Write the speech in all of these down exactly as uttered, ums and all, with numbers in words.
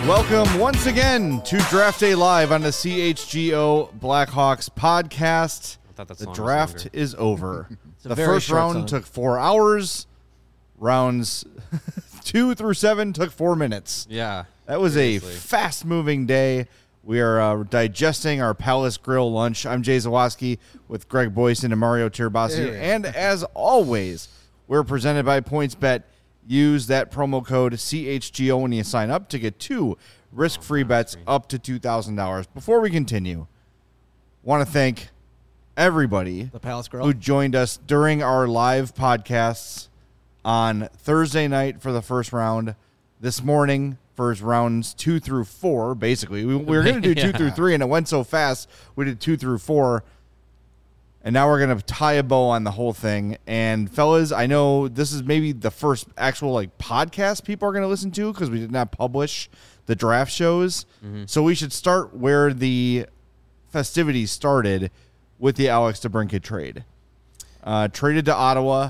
Welcome once again to Draft Day Live on the C H G O Blackhawks podcast. I thought that the song draft was is over. a The very first short round song. took four hours. Rounds two through seven took four minutes. Yeah. That was seriously. a fast-moving day. We are uh, digesting our Palace Grill lunch. I'm Jay Zawoski with Greg Boyson and Mario Tirabassi. Yeah. And as always, we're presented by PointsBet. Use that promo code C H G O when you sign up to get two risk-free bets up to two thousand dollars. Before we continue, want to thank everybody The Palace Grill. who joined us during our live podcasts on Thursday night for the first round. This morning for rounds two through four, basically. We, we were going to do two Yeah. through three, and it went so fast, we did two through four. And now we're going to tie a bow on the whole thing. And, fellas, I know this is maybe the first actual like podcast people are going to listen to because we did not publish the draft shows. Mm-hmm. So we should start where the festivities started with the Alex DeBrincat trade. Uh, traded to Ottawa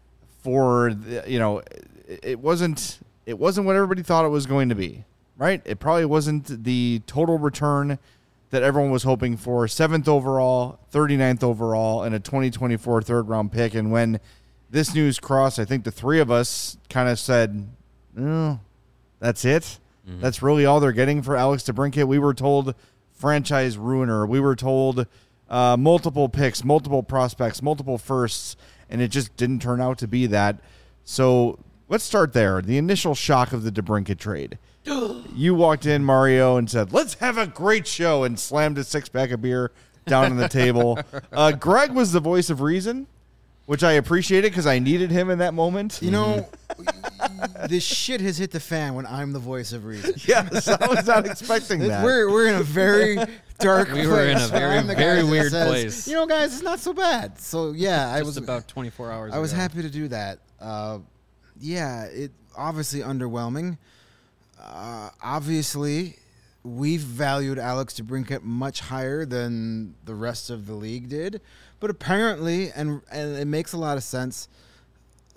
for, the, you know, it, it wasn't it wasn't what everybody thought it was going to be, right? It probably wasn't the total return that everyone was hoping for. Seventh overall, thirty-ninth overall, and a twenty twenty-four third round pick. And when this news crossed, I think the three of us kind of said, oh, that's it. Mm-hmm. That's really all they're getting for Alex DeBrincat. We were told franchise ruiner. We were told uh, multiple picks, multiple prospects, multiple firsts, and it just didn't turn out to be that. So let's start there. The initial shock of the DeBrincat trade. You walked in, Mario, and said, let's have a great show, and slammed a six-pack of beer down on the table. Uh, Greg was the voice of reason, which I appreciated because I needed him in that moment. You know, this shit has hit the fan when I'm the voice of reason. Yes, I was not expecting that. We're we're in a very dark We place. were in a where very, I'm the very guy that weird says, place. You know, guys, it's not so bad. So, yeah, I Just was about twenty-four hours I was ago. happy to do that. Uh, yeah, it obviously underwhelming. Uh, obviously, we've valued Alex DeBrincat much higher than the rest of the league did, but apparently, and and it makes a lot of sense. uh,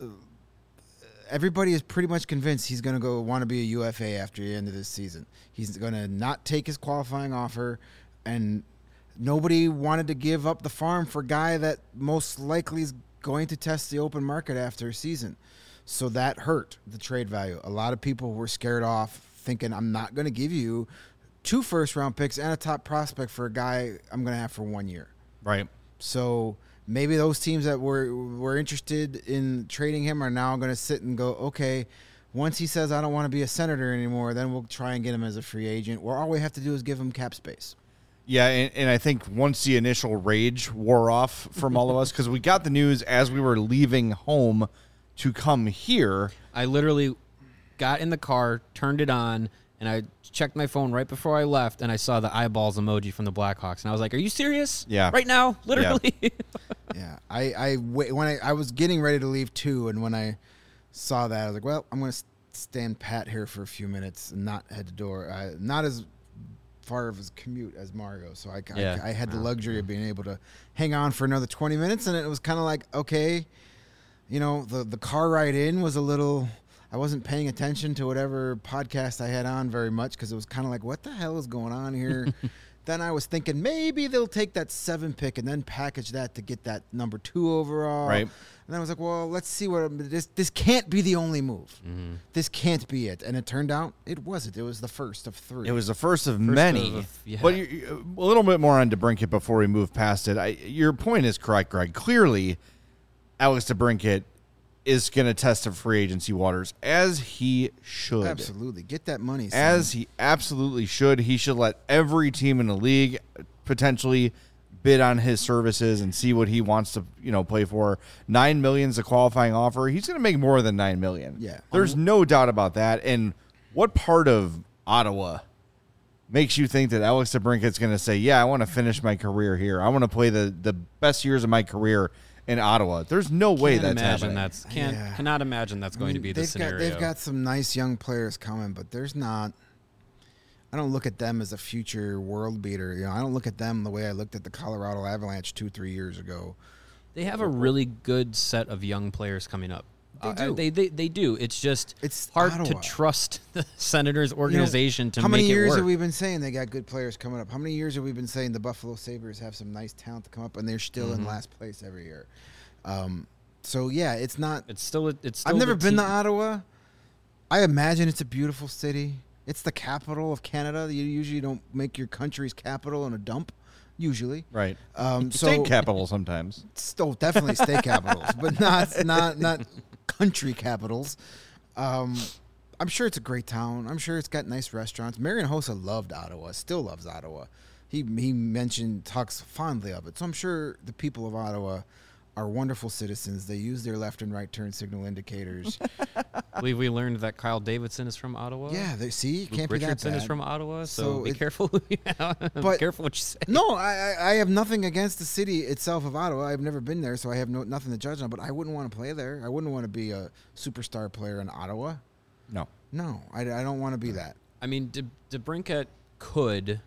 Everybody is pretty much convinced he's going to go want to be a U F A after the end of this season. He's going to not take his qualifying offer, and nobody wanted to give up the farm for a guy that most likely is going to test the open market after a season. So that hurt the trade value. A lot of people were scared off, thinking I'm not going to give you two first-round picks and a top prospect for a guy I'm going to have for one year. Right. So maybe those teams that were were interested in trading him are now going to sit and go, okay, once he says I don't want to be a Senator anymore, then we'll try and get him as a free agent. Or all we have to do is give him cap space. Yeah, and, and I think once the initial rage wore off from all of us, because we got the news as we were leaving home to come here. I literally got in the car, turned it on, and I checked my phone right before I left, and I saw the eyeballs emoji from the Blackhawks, and I was like, "Are you serious? Yeah. right now, literally." Yeah. Yeah, I, I wa- when I, I was getting ready to leave too, and when I saw that, I was like, well, I'm going to stand pat here for a few minutes and not head to door. Uh, not as far of a commute as Mario, so I, Yeah. I, I had the luxury of being able to hang on for another twenty minutes, and it was kind of like, okay, you know, the, the car ride in was a little... I wasn't paying attention to whatever podcast I had on very much because it was kind of like, what the hell is going on here? Then I was thinking maybe they'll take that seven pick and then package that to get that number two overall. Right. And then I was like, well, let's see what this this can't be the only move. Mm-hmm. This can't be it. And it turned out it wasn't. It was the first of three. It was the first of many. of- yeah. But you, you- a little bit more on DeBrincat before we move past it. I, your point is correct, Greg. Clearly, Alex DeBrincat is going to test the free agency waters, as he should. Absolutely. Get that money. son. As he absolutely should. He should let every team in the league potentially bid on his services and see what he wants to, you know, play for. Nine million is a qualifying offer. He's going to make more than nine million. Yeah. There's no doubt about that. And what part of Ottawa makes you think that Alex DeBrincat's going to say, yeah, I want to finish my career here. I want to play the, the best years of my career in Ottawa. There's no way Can't that's imagine happening. that's can't Yeah. cannot imagine that's going I to mean, be the they've scenario. Got, they've got some nice young players coming, but there's not. I don't look at them as a future world beater. You know, I don't look at them the way I looked at the Colorado Avalanche two, three years ago. They have a really good set of young players coming up. They Uh, do. they, they they do. It's just It's hard Ottawa. to trust the Senators organization to How make many it years work. have we been saying they got good players coming up? How many years have we been saying the Buffalo Sabres have some nice talent to come up, and they're still Mm-hmm. in last place every year? Um, so yeah, it's not. It's still. a- It's. Still I've never the been team. to Ottawa. I imagine it's a beautiful city. It's the capital of Canada. You usually don't make your country's capital in a dump. Usually, Right. um, so State capital sometimes. still definitely state capitals, but not not not country capitals. Um, I'm sure it's a great town. I'm sure it's got nice restaurants. Marian Hossa loved Ottawa, still loves Ottawa. He he mentioned talks fondly of it. So I'm sure the people of Ottawa are wonderful citizens. They use their left and right turn signal indicators. I believe we learned that Kyle Davidson is from Ottawa. yeah, they see Luke can't be that Richardson bad. is from Ottawa. So, So be it- careful. Who you, But- be careful what you say. No, I, I I have nothing against the city itself of Ottawa. I've never been there, so I have no nothing to judge on. But I wouldn't want to play there. I wouldn't want to be a superstar player in Ottawa. No. No, I, I don't want to be that. I mean, De, DeBrincat could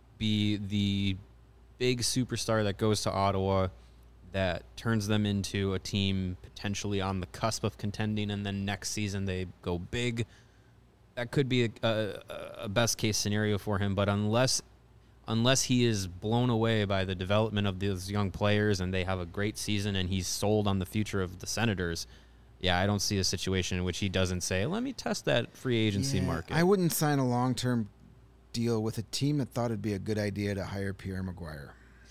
be the big superstar that goes to Ottawa that turns them into a team potentially on the cusp of contending, and then next season they go big. That could be a, a, a best case scenario for him, but unless unless he is blown away by the development of those young players and they have a great season and he's sold on the future of the Senators, yeah, I don't see a situation in which he doesn't say, let me test that free agency Yeah, market. I wouldn't sign a long term deal with a team that thought it'd be a good idea to hire Pierre Maguire.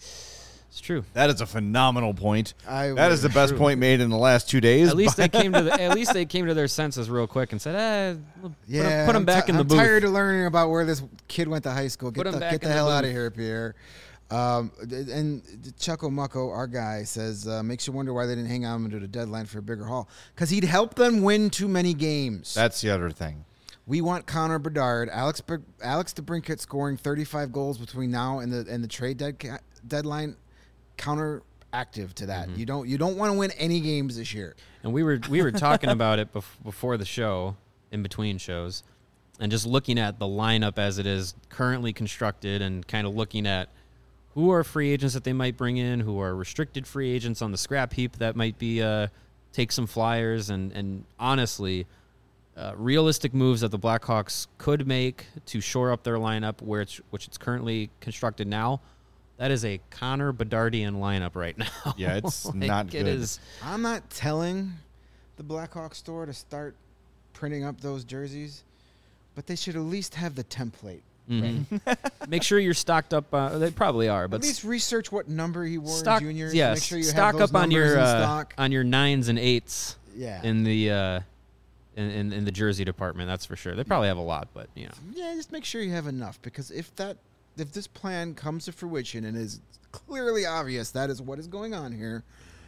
It's true. That is a phenomenal point. I That is the would- best True. point made in the last two days. At least but- they came to the, at least they came to their senses real quick and said, "Eh, we'll put, Yeah, him, put him I'm back ti- in the I'm booth." tired of learning about where this kid went to high school. Get Put him the, back get the in the hell out of booth. here, Pierre. Um, and Chucko Mucko, our guy, says, uh, makes you wonder why they didn't hang on to the deadline for a bigger haul. Because he'd help them win too many games. That's the other thing. We want Connor Bedard, Alex Ber- Alex DeBrincat scoring thirty-five goals between now and the and the trade dead ca- deadline. Counteractive to that. Mm-hmm. You don't you don't want to win any games this year. And we were we were talking about it bef- before the show, in between shows, and just looking at the lineup as it is currently constructed, and kind of looking at who are free agents that they might bring in, who are restricted free agents on the scrap heap that might be uh, take some flyers, and and honestly, uh, realistic moves that the Blackhawks could make to shore up their lineup, where it's which it's currently constructed now. That is a Connor Bedardian lineup right now. Yeah, it's Like, not It good. is. I'm not telling the Blackhawk store to start printing up those jerseys, but they should at least have the template. Mhm. Make sure you're stocked up. Uh, they probably are, but At least research what number he wore stock, in juniors. yes, Make sure you stock have those up on numbers your in uh, stock. on your nines and eights Yeah. in the uh, in, in in the jersey department. That's for sure. They probably have a lot, but you know, Yeah, just make sure you have enough, because if that if this plan comes to fruition and is clearly obvious that is what is going on here,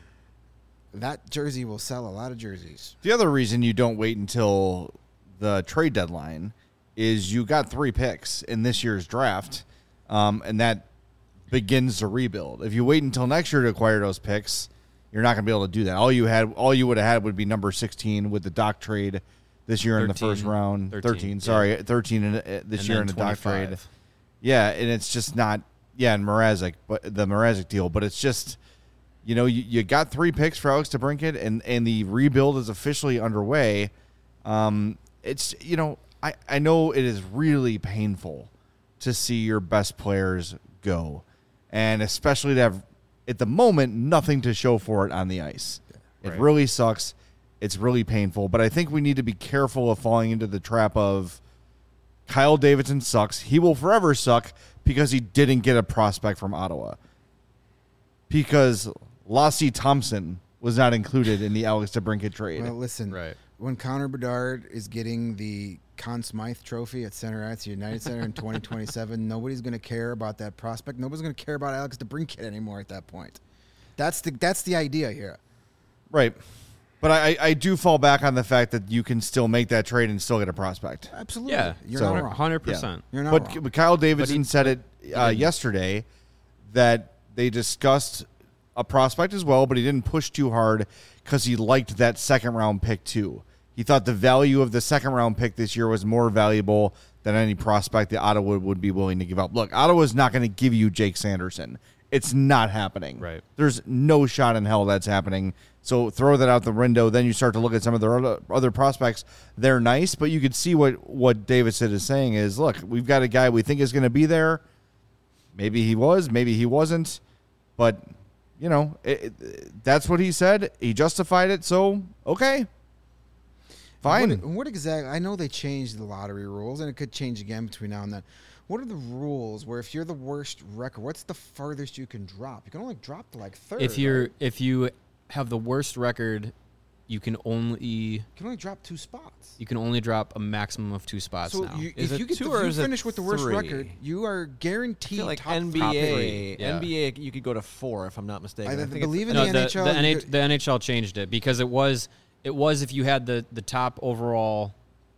that jersey will sell a lot of jerseys. The other reason you don't wait until the trade deadline is you got three picks in this year's draft, um, and that begins to rebuild. If you wait until next year to acquire those picks, you're not going to be able to do that. All you had, all you would have had would be number sixteen with the Doc trade this year in the first thirteen, round. thirteen, thirteen, yeah. sorry, thirteen in, uh, this and year then in the Doc trade. twenty-five. Yeah, and it's just not. Yeah, and Mrazek, but the Mrazek deal, but it's just, you know, you, you got three picks for Alex DeBrincat, and and the rebuild is officially underway. Um, it's you know, I I know it is really painful to see your best players go, and especially to have at the moment nothing to show for it on the ice. It Right. really sucks. It's really painful, but I think we need to be careful of falling into the trap of Kyle Davidson sucks. He will forever suck because he didn't get a prospect from Ottawa. Because Lassie Thompson was not included in the Alex DeBrincat trade. Well, listen, Right. when Connor Bedard is getting the Conn Smythe Trophy at Center Ice United Center in twenty twenty-seven, nobody's going to care about that prospect. Nobody's going to care about Alex DeBrincat anymore at that point. That's the that's the idea here. Right. But I, I do fall back on the fact that you can still make that trade and still get a prospect. Absolutely. Yeah, You're So- not wrong. hundred percent. You're not But, wrong. but Kyle Davidson But he- said it uh, yesterday that they discussed a prospect as well, but he didn't push too hard because he liked that second round pick too. He thought the value of the second round pick this year was more valuable than any prospect that Ottawa would be willing to give up. Look, Ottawa's not going to give you Jake Sanderson. It's not happening. Right. There's no shot in hell that's happening. So throw that out the window. Then you start to look at some of their other, other prospects. They're nice, but you could see what, what Davidson is saying is, look, we've got a guy we think is going to be there. Maybe he was, maybe he wasn't. But, you know, it, it, that's what he said. He justified it, so okay. Fine. What, what exactly? I know they changed the lottery rules, and it could change again between now and then. What are the rules where if you're the worst record, what's the farthest you can drop? You can only drop to like third. If you're right? if you have the worst record, you can only you can only drop two spots. you can only drop a maximum of two spots So now. you, Is if it you get two the, or if you is it finish with the worst three? record, you are I guaranteed feel like top N B A, top three, yeah. N B A, you could go to four if I'm not mistaken. I I, think believe it's, in no, the the, N H L, the, you N H, get- the N H L changed it because it was it was if you had the, the top overall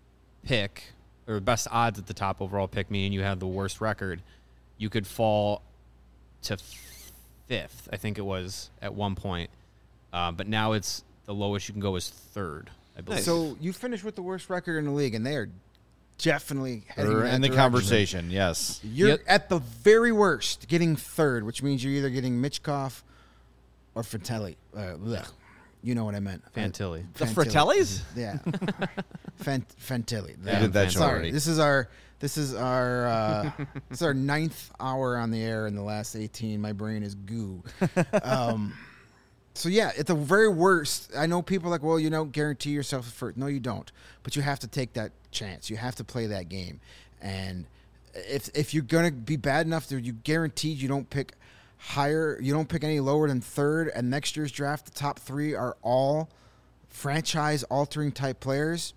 pick or best odds at the top overall pick, meaning you had the worst record, you could fall to fifth. I think it was at one point, uh, but now it's the lowest you can go is third. I believe. Nice. So you finish with the worst record in the league, and they are definitely heading Or in, that in the direction. conversation, yes. You're Yep. at the very worst getting third, which means you're either getting Mitchkov or Fantilli. Uh, blech. You know what I meant. Fantilli. The Fratellis? Yeah. Fant- Fantilli. You did that show Sorry. already. This is our this is our uh, this is our ninth hour on the air in the last eighteen. My brain is goo. Um, so yeah, at the very worst, I know people are like, well, you don't guarantee yourself a first. No, you don't. But you have to take that chance. You have to play that game. And if if you're gonna be bad enough that you guaranteed you don't pick higher, you don't pick any lower than third, and next year's draft, the top three are all franchise altering type players.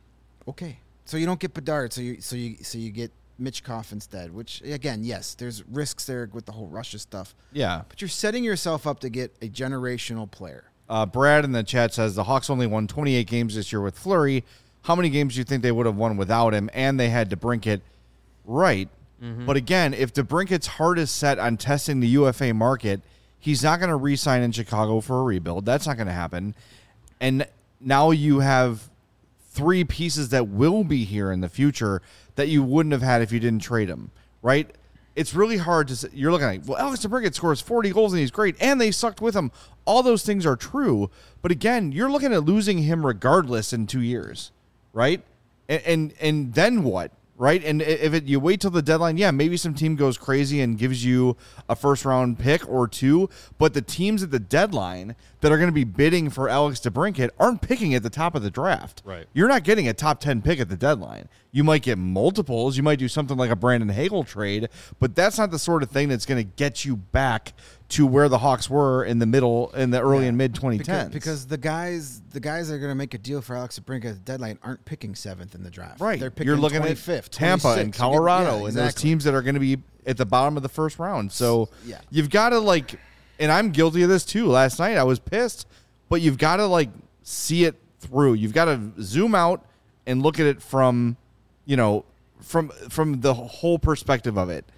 Okay. So you don't get Bedard, so you so you so you get Mitchkov instead, which again, yes, there's risks there with the whole Russia stuff. Yeah. But you're setting yourself up to get a generational player. Uh, Brad in the chat says the Hawks only won twenty-eight games this year with Fleury. How many games do you think they would have won without him? And they had DeBrincat. Right. Mm-hmm. But again, if DeBrincat's heart is set on testing the U F A market, he's not going to re-sign in Chicago for a rebuild. That's not going to happen. And now you have three pieces that will be here in the future that you wouldn't have had if you didn't trade him, right? It's really hard to say. You're looking at, well, Alex DeBrincat scores forty goals and he's great, and they sucked with him. All those things are true. But again, you're looking at losing him regardless in two years, right? And and, and then what? Right, and if it, you wait till the deadline, yeah, maybe some team goes crazy and gives you a first-round pick or two, but the teams at the deadline that are going to be bidding for Alex DeBrincat aren't picking at the top of the draft. Right. You're not getting a top ten pick at the deadline. You might get multiples. You might do something like a Brandon Hagel trade, but that's not the sort of thing that's going to get you back to where the Hawks were in the middle, in the early Yeah. and mid twenty Because, tens. because the guys the guys that are going to make a deal for Alex DeBrincat at the deadline aren't picking seventh in the draft. Right. They're picking You're looking at twenty-fifth, Tampa and twenty-sixth. You're Colorado getting- yeah, and those exactly. teams that are going to be at the bottom of the first round. So Yeah. you've got to like, and I'm guilty of this too. Last night I was pissed, but you've got to like see it through. You've got to zoom out and look at it from, you know, from from the whole perspective of it.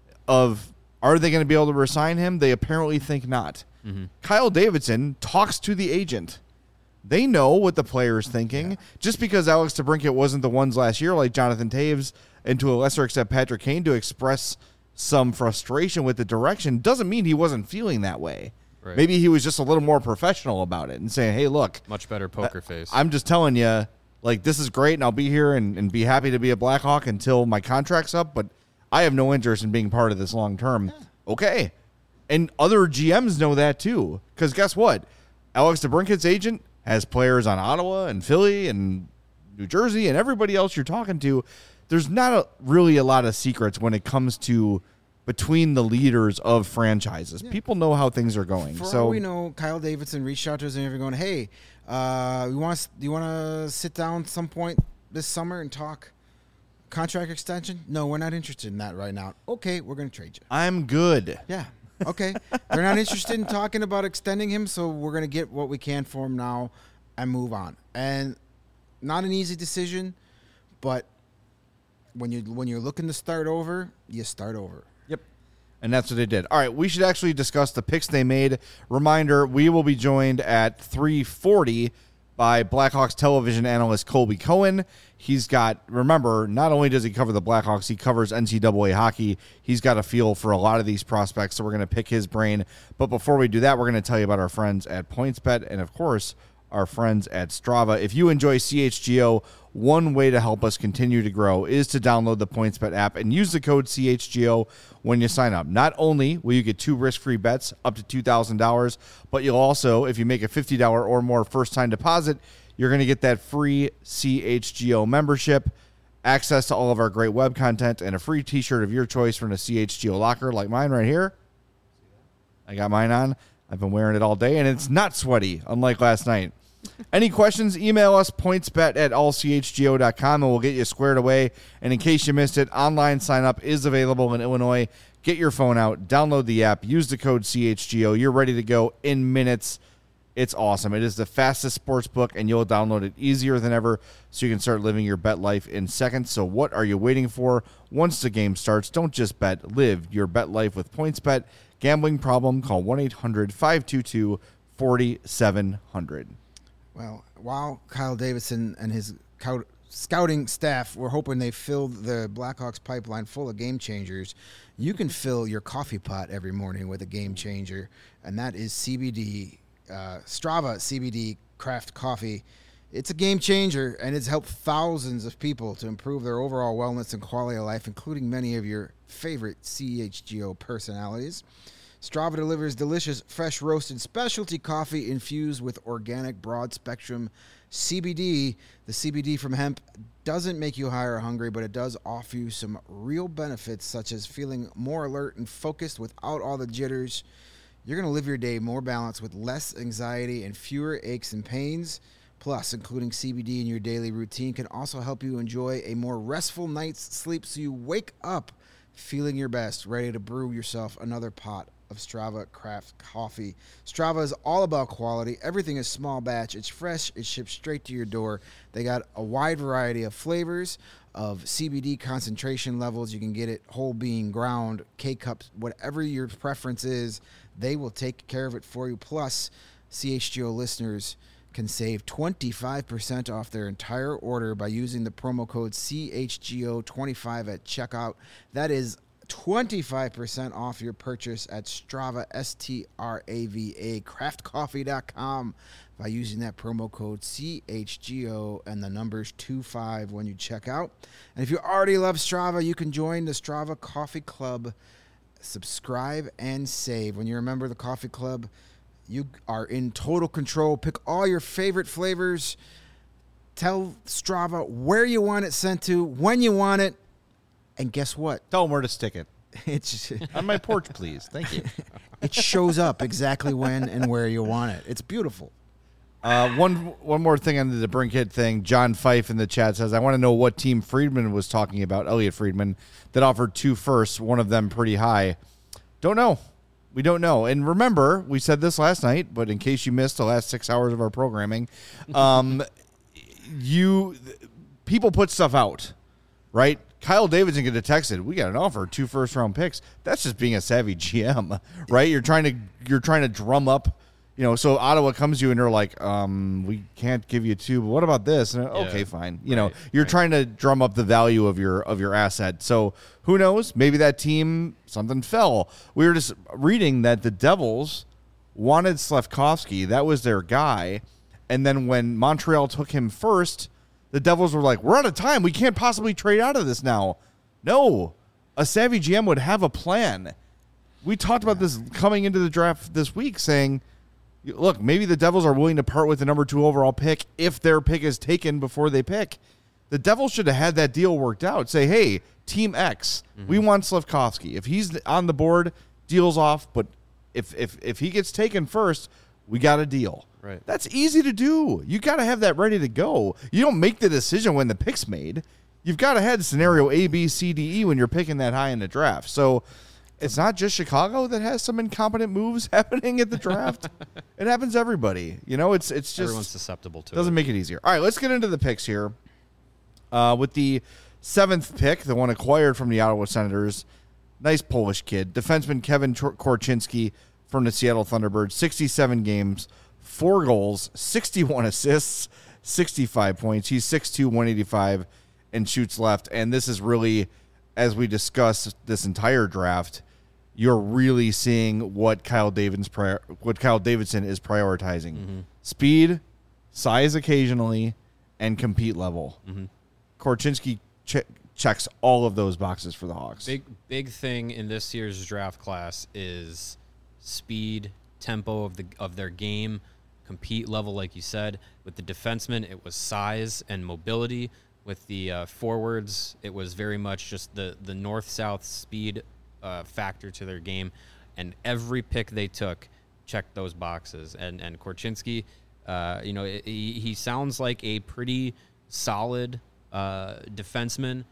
Of are they going to be able to resign him? They apparently think not. Mm-hmm. Kyle Davidson talks to the agent. They know what the player's thinking. Just because Alex DeBrincat wasn't the ones last year, like Jonathan Taves, and to a lesser extent Patrick Kane, to express some frustration with the direction, doesn't mean he wasn't feeling that way. Right. Maybe he was just a little more professional about it and saying, hey, look, Much better poker face. I'm just telling you, like, this is great, and I'll be here and, and be happy to be a Blackhawk until my contract's up, but I have no interest in being part of this long term. Okay. And other G Ms know that too. Because guess what? Alex DeBrincat's agent has players on Ottawa and Philly and New Jersey and everybody else you're talking to. There's not a, really a lot of secrets when it comes to between the leaders of franchises. People know how things are going. For so all we know, Kyle Davidson reached out to us and everyone going, hey, uh, you want do you want to sit down some point this summer and talk contract extension? No, we're not interested in that right now. Okay, we're going to trade you. I'm good. Yeah. Okay. They're not interested in talking about extending him, so we're going to get what we can for him now and move on. And not an easy decision, but when you when you're looking to start over, you start over. Yep. And that's what they did. All right, we should actually discuss the picks they made. Reminder, we will be joined at three forty by Blackhawks television analyst Colby Cohen. He's got, remember, not only does he cover the Blackhawks, he covers N C double A hockey. He's got a feel for a lot of these prospects, so we're going to pick his brain. But before we do that, we're going to tell you about our friends at PointsBet and, of course, our friends at Strava. If you enjoy C H G O, one way to help us continue to grow is to download the PointsBet app and use the code C H G O when you sign up. Not only will you get two risk-free bets up to two thousand dollars, but you'll also, if you make a fifty dollars or more first-time deposit, you're going to get that free C H G O membership, access to all of our great web content, and a free t-shirt of your choice from the C H G O locker like mine right here. I got mine on. I've been wearing it all day, and it's not sweaty, unlike last night. Any questions, email us, pointsbet at all c h g o dot com, and we'll get you squared away. And in case you missed it, online sign-up is available in Illinois. Get your phone out, download the app, use the code C H G O. You're ready to go in minutes. It's awesome. It is the fastest sports book, and you'll download it easier than ever so you can start living your bet life in seconds. So what are you waiting for? Once the game starts, don't just bet. Live your bet life with PointsBet. Gambling problem? Call one eight hundred five two two four seven zero zero. Well, while Kyle Davidson and his cout- scouting staff were hoping they filled the Blackhawks pipeline full of game changers, you can fill your coffee pot every morning with a game changer, and that is C B D, uh, Strava C B D craft coffee. It's a game changer, and it's helped thousands of people to improve their overall wellness and quality of life, including many of your favorite C H G O personalities. Strava delivers delicious, fresh roasted specialty coffee infused with organic broad-spectrum C B D. The C B D from hemp doesn't make you high or hungry, but it does offer you some real benefits, such as feeling more alert and focused without all the jitters. You're going to live your day more balanced with less anxiety and fewer aches and pains. Plus, including C B D in your daily routine can also help you enjoy a more restful night's sleep so you wake up feeling your best, ready to brew yourself another pot of Strava craft coffee. Strava is all about quality. Everything is small batch. It's fresh. It's shipped straight to your door. They got a wide variety of flavors, of C B D concentration levels. You can get it whole bean, ground, K-cups, whatever your preference is. They will take care of it for you. Plus, C H G O listeners can save twenty-five percent off their entire order by using the promo code C H G O twenty-five at checkout. That is twenty-five percent off your purchase at Strava, S T R A V A, craft coffee dot com by using that promo code C H G O and the numbers two five when you check out. And if you already love Strava, you can join the Strava Coffee Club. Subscribe and save. When you're a member of the Coffee Club, you are in total control. Pick all your favorite flavors. Tell Strava where you want it sent to, when you want it, and guess what? Tell them where to stick it. It's On my porch, please. Thank you. it shows up exactly when and where you want it. It's beautiful. Uh, one one more thing on the Brinkhead thing. John Fife in the chat says, I want to know what team Friedman was talking about, Elliot Friedman, that offered two firsts, one of them pretty high. Don't know. We don't know. And remember, we said this last night, but in case you missed the last six hours of our programming, um, you people put stuff out, right? Kyle Davidson could have texted, we got an offer, two first round picks. That's just being a savvy G M, right? You're trying to you're trying to drum up, you know, so Ottawa comes to you and they're like, um, we can't give you two, but what about this? And, Yeah. okay, fine. You Right, know, you're right. trying to drum up the value of your of your asset. So who knows? Maybe that team, something fell. We were just reading that the Devils wanted Slafkovsky. That was their guy. And then when Montreal took him first, the Devils were like, we're out of time. We can't possibly trade out of this now. No. A savvy G M would have a plan. We talked about this coming into the draft this week, saying, look, maybe the Devils are willing to part with the number two overall pick if their pick is taken before they pick. The Devils should have had that deal worked out. Say, hey, Team X, mm-hmm. we want Slafkovsky. If he's on the board, deal's off. But if if if he gets taken first, we got a deal. Right. That's easy to do. You got to have that ready to go. You don't make the decision when the pick's made. You've got to have scenario A, B, C, D, E when you're picking that high in the draft. So it's not just Chicago that has some incompetent moves happening at the draft. It happens to everybody. You know, it's it's just Everyone's susceptible to doesn't it. make it easier. All right, let's get into the picks here. Uh, with the seventh pick, the one acquired from the Ottawa Senators, nice Polish kid, defenseman Kevin Korchinski from the Seattle Thunderbirds, sixty-seven games, four goals, sixty-one assists, sixty-five points. He's six two, one eighty-five, and shoots left. And this is really, as we discussed this entire draft, you're really seeing what Kyle Davidson's prior, what Kyle Davidson is prioritizing: Mm-hmm. speed, size occasionally, and compete level. Mm-hmm. Korchinski che- checks all of those boxes for the Hawks. Big big thing in this year's draft class is speed, tempo of the of their game, compete level, like you said. With the defensemen, it was size and mobility. With the uh, forwards, it was very much just the the north-south speed uh, factor to their game, and every pick they took checked those boxes. And and Korchinski, uh, you know, he, he sounds like a pretty solid uh, defenseman.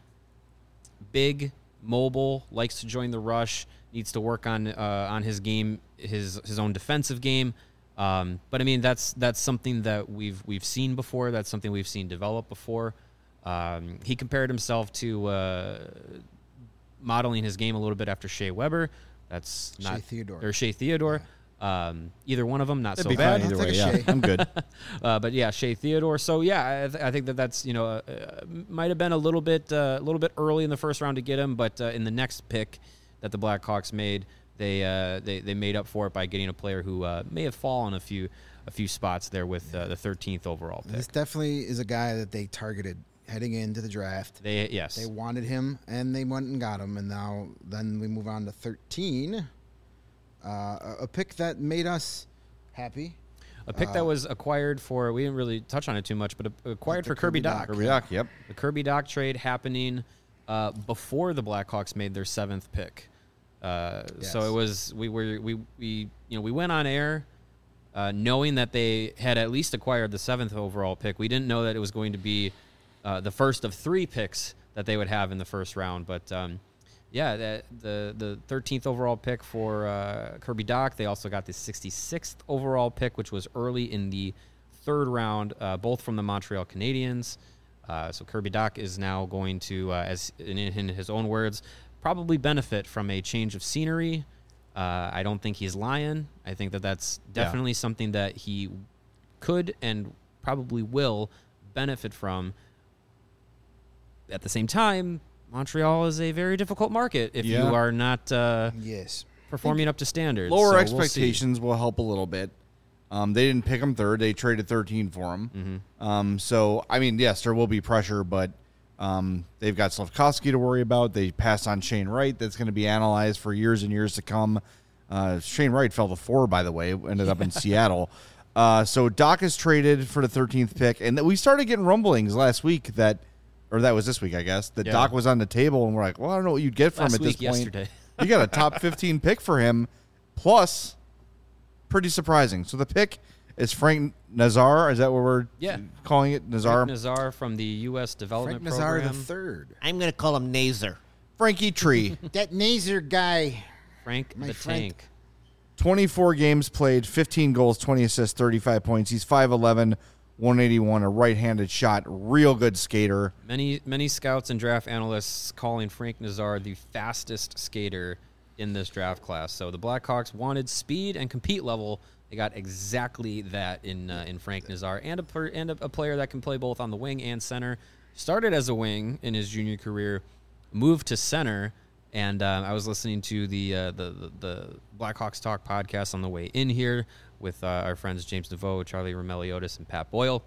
Big, mobile, likes to join the rush, needs to work on uh, on his game, his his own defensive game. Um, but I mean, that's that's something that we've we've seen before. That's something we've seen develop before. Um, he compared himself to uh, modeling his game a little bit after Shea Weber. That's Shea not Theodore. or Shea Theodore. Um, either one of them, not That'd so be bad. fine either I'll way. take a Yeah, Shea. I'm good. Uh, but yeah, Shea Theodore. So yeah, I, th- I think that that's you know uh, uh, might have been a little bit uh, a little bit early in the first round to get him, but uh, in the next pick that the Blackhawks made, they uh, they they made up for it by getting a player who uh, may have fallen a few a few spots there with uh, the thirteenth overall pick. This definitely is a guy that they targeted heading into the draft. They yes, They wanted him, and they went and got him. And now, then we move on to thirteen, uh, a- a pick that made us happy. a pick that uh, was acquired for. We didn't really touch on it too much, but uh, acquired the for Kirby Kirby Doc. Dach. Kirby Doc, yep. The Kirby Doc trade happening uh, before the Blackhawks made their seventh pick. Uh, So Yes. it was we were we we you know we went on air uh, knowing that they had at least acquired the seventh overall pick. We didn't know that it was going to be uh, the first of three picks that they would have in the first round. But um, yeah, the the the thirteenth overall pick for uh, Kirby Doc. They also got the sixty-sixth overall pick, which was early in the third round, uh, both from the Montreal Canadiens. Uh, so Kirby Doc is now going to, uh, as in, in his own words, probably benefit from a change of scenery. Uh, I don't think he's lying. I think that that's Yeah. definitely something that he could and probably will benefit from. At the same time, Montreal is a very difficult market if Yeah. you are not uh, Yes. performing up to standards. Lower So we'll see. expectations will help a little bit. Um, they didn't pick him third. They traded thirteen for him. Mm-hmm. Um, so, I mean, yes, there will be pressure, but um, they've got Slavkovsky to worry about. They passed on Shane Wright. That's going to be analyzed for years and years to come. Uh, Shane Wright fell to four, by the way, ended up in Seattle. Uh, so Doc is traded for the thirteenth pick. And we started getting rumblings last week that, or that was this week, I guess, that Yeah. Doc was on the table. And we're like, well, I don't know what you'd get from Last him at week, this point. yesterday. You got a top fifteen pick for him, plus pretty surprising. So the pick is Frank Nazar. Is that what we're Yeah. calling it? Nazar? Frank Nazar from the U S Development Frank Nazar the Program. third. I'm going to call him Nazer. Frankie Tree. That Nazer guy. Frank My the Frank. Tank. twenty-four games played, fifteen goals, twenty assists, thirty-five points. He's five eleven, one eighty-one, a right-handed shot. Real good skater. Many many scouts and draft analysts calling Frank Nazar the fastest skater in this draft class. So the Blackhawks wanted speed and compete level. They got exactly that in uh, in Frank Nazar, and a per, and a, a player that can play both on the wing and center. Started as a wing in his junior career, moved to center, and uh, I was listening to the, uh, the the the Blackhawks Talk podcast on the way in here with uh, our friends James DeVoe, Charlie Romeliotis, and Pat Boyle.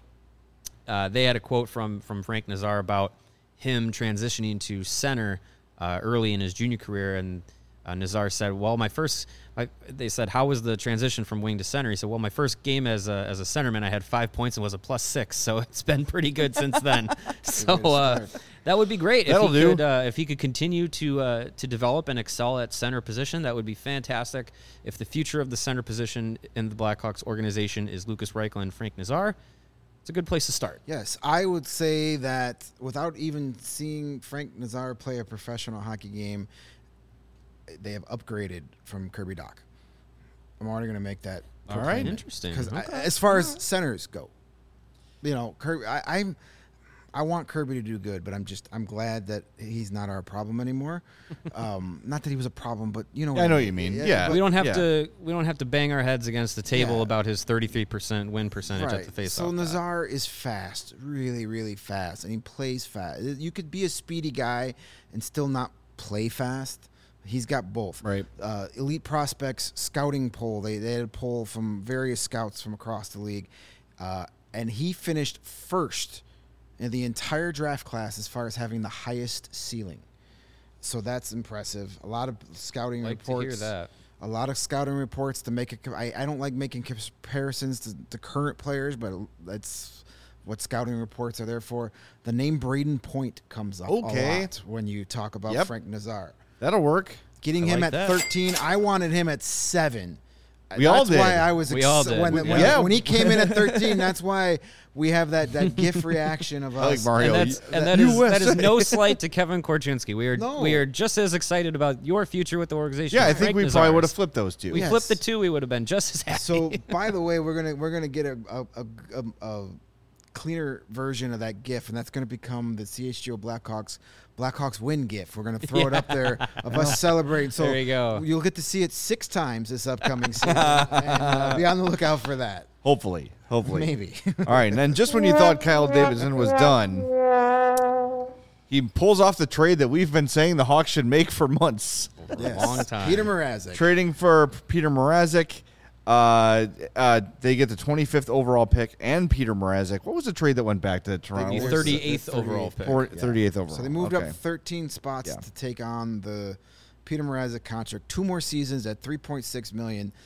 Uh, they had a quote from from Frank Nazar about him transitioning to center uh, early in his junior career, and uh, Nazar said, "Well, my first," my, they said, "How was the transition from wing to center?" He said, "Well, my first game as a as a centerman, I had five points and was a plus six, so it's been pretty good since then." So uh, that would be great if That'll he do. could uh, if he could continue to uh, to develop and excel at center position. That would be fantastic. If the future of the center position in the Blackhawks organization is Lucas Reichel and Frank Nazar, it's a good place to start. Yes, I would say that without even seeing Frank Nazar play a professional hockey game, they have upgraded from Kirby Doc. I'm already going to make that. All right. Interesting. Because Okay. as far as centers go, you know, Kirby, I, I'm I want Kirby to do good, but I'm just I'm glad that he's not our problem anymore. um, not that he was a problem, but you know. Yeah, I know what you mean. Yeah. We don't have yeah. to. We don't have to bang our heads against the table Yeah. about his thirty-three percent win percentage Right. at the face. So Nazar is fast, really, really fast, and he plays fast. You could be a speedy guy and still not play fast. He's got both. Right. Uh, elite prospects scouting poll. They they had a poll from various scouts from across the league, uh, and he finished first in the entire draft class as far as having the highest ceiling. So that's impressive. A lot of scouting Like reports. to hear that. A lot of scouting reports to make it. I, I don't like making comparisons to, to current players, but that's what scouting reports are there for. The name Braden Point comes up Okay. a lot when you talk about Yep. Frank Nazar. That'll work. Getting I him like at that. thirteen, I wanted him at seven. We all that's did. why I was We ex- all did. When, We- when, yeah. when he came in at thirteen. That's why we have that, that GIF reaction of I like us. Mario. And that's you- and that U is that S A. is no slight to Kevin Korchinski. We are No. we are just as excited about your future with the organization. Yeah, I as think Frank we probably Nazar's. would have flipped those two. We Yes. flipped the two, we would have been just as happy. So, by the way, we're gonna we're gonna get a a, a, a, a cleaner version of that GIF, and that's gonna become the C H G O Blackhawks Blackhawks win GIF. We're gonna throw it up there of us celebrating. So There you go. You'll get to see it six times this upcoming season, and uh, be on the lookout for that. Hopefully. Hopefully. Maybe. All right, and then just when you thought Kyle Davidson was done, he pulls off the trade that we've been saying the Hawks should make for months. Yes. long time. Peter Mrazek. Trading for Peter Mrazek. Uh, uh, they get the twenty-fifth overall pick and Peter Mrazek. What was the trade that went back to Toronto? The What was thirty-eighth the overall pick. Four- Yeah. thirty-eighth overall. So they moved Okay. up thirteen spots Yeah. to take on the Peter Mrazek contract. Two more seasons at three point six million dollars.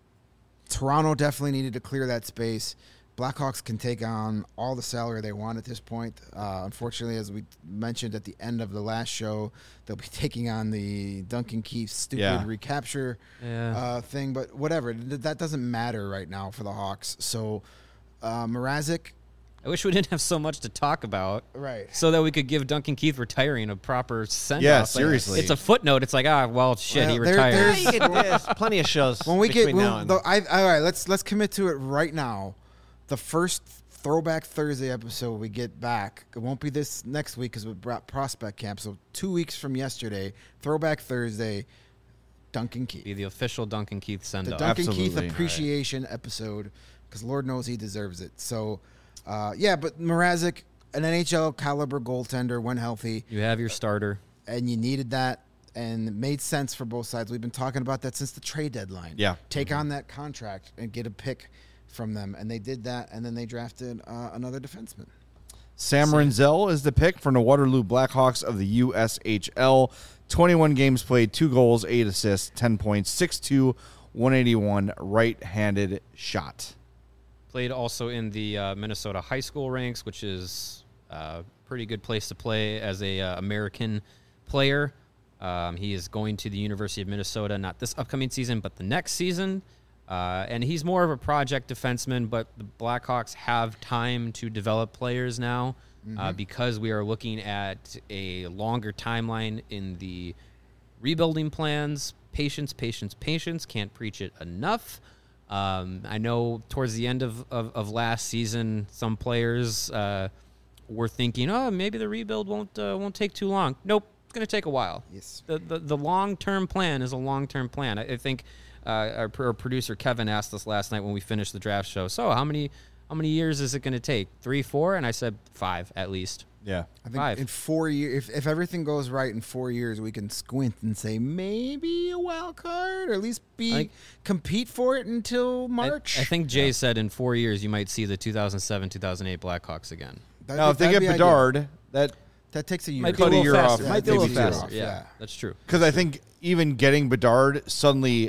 Toronto definitely needed to clear that space. Blackhawks can take on all the salary they want at this point. Uh, unfortunately, as we mentioned at the end of the last show, they'll be taking on the Duncan Keith stupid Yeah. recapture Yeah. uh, thing. But whatever, Th- that doesn't matter right now for the Hawks. So uh, Mrazek, I wish we didn't have so much to talk about. right. So that we could give Duncan Keith retiring a proper send off. Yeah, seriously. It's a footnote. It's like, ah, well, shit, Well, he there- retired. there's- Yeah, you get- there's plenty of shows When we between get, now when, and the, I, all right, let's let's commit to it right now. The first Throwback Thursday episode we get back. It won't be this next week because we brought prospect camp. So two weeks from yesterday, Throwback Thursday, Duncan Keith, Be the official Duncan Keith send the off. Duncan Keith Absolutely. appreciation episode, because Lord knows he deserves it. So, uh, yeah, but Mrazek, an N H L caliber goaltender when healthy, You have your starter. and you needed that, and it made sense for both sides. We've been talking about that since the trade deadline. Yeah. Take on that contract and get a pick from them, and they did that, and then they drafted uh, another defenseman. Sam Renzel is the pick from the Waterloo Blackhawks of the U S H L. twenty-one games played, two goals, eight assists, ten points, six two, one eighty-one, right-handed shot. Played also in the uh, Minnesota high school ranks, which is a pretty good place to play as a uh, American player. Um, he is going to the University of Minnesota, not this upcoming season, but the next season. Uh, and he's more of a project defenseman, but the Blackhawks have time to develop players now uh, because we are looking at a longer timeline in the rebuilding plans. Patience, patience, patience. Can't preach it enough. Um, I know towards the end of, of, of last season, some players uh, were thinking, "Oh, maybe the rebuild won't uh, won't take too long." Nope, it's going to take a while. Yes. The the, the long term plan is a long term plan. I, I think uh, our, our producer Kevin asked us last night when we finished the draft show. So how many how many years is it going to take? Three, four? And I said five at least. Yeah. I think Five. in four years, if, if everything goes right in four years, we can squint and say maybe a wild card, or at least be I think- compete for it until I- March. I, think Jay said in four years you might see the two thousand seven two thousand eight Blackhawks again. That'd Now, be- if they that'd get be ideal. Bedard, that that takes a year. Might be a Cut a little year faster. off, Might be a maybe little two. faster. off, Yeah, yeah. that's true. because I think even getting Bedard suddenly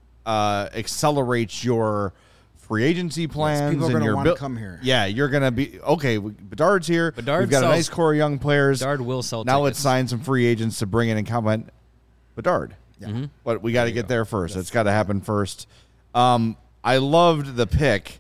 uh, accelerates your free agency plans. people are and gonna your wanna buil- come here. Yeah, you're going to be, okay, we- Bedard's here. Bedard We've got a sells- nice core of young players. Bedard will sell now let's tickets. sign some free agents to bring in and complement Bedard. Yeah. Mhm. But we got to get there first. It's got to happen first. Um, I loved the pick.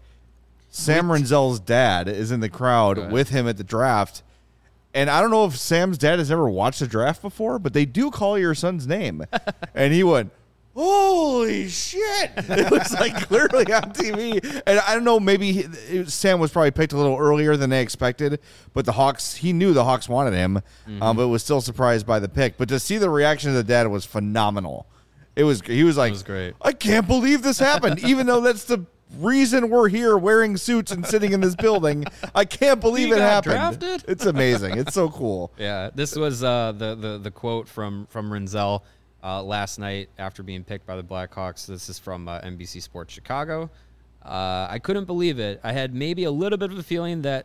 Sam Renzel's dad is in the Go crowd ahead. with him at the draft. And I don't know if Sam's dad has ever watched a draft before, but they do call your son's name. And he went, holy shit. It was like clearly on T V. And I don't know, maybe he, it, Sam was probably picked a little earlier than they expected, but the Hawks, he knew the Hawks wanted him, mm-hmm. um, but was still surprised by the pick. But to see the reaction of the dad was phenomenal. It was, he was like, it was great. I can't believe this happened, even though that's the reason we're here wearing suits and sitting in this building. I can't believe He it got happened. drafted? It's amazing. It's so cool. Yeah, this was uh, the, the, the quote from, from Renzel. Uh, last night, after being picked by the Blackhawks. This is from uh, N B C Sports Chicago. Uh, I couldn't believe it. I had maybe a little bit of a feeling that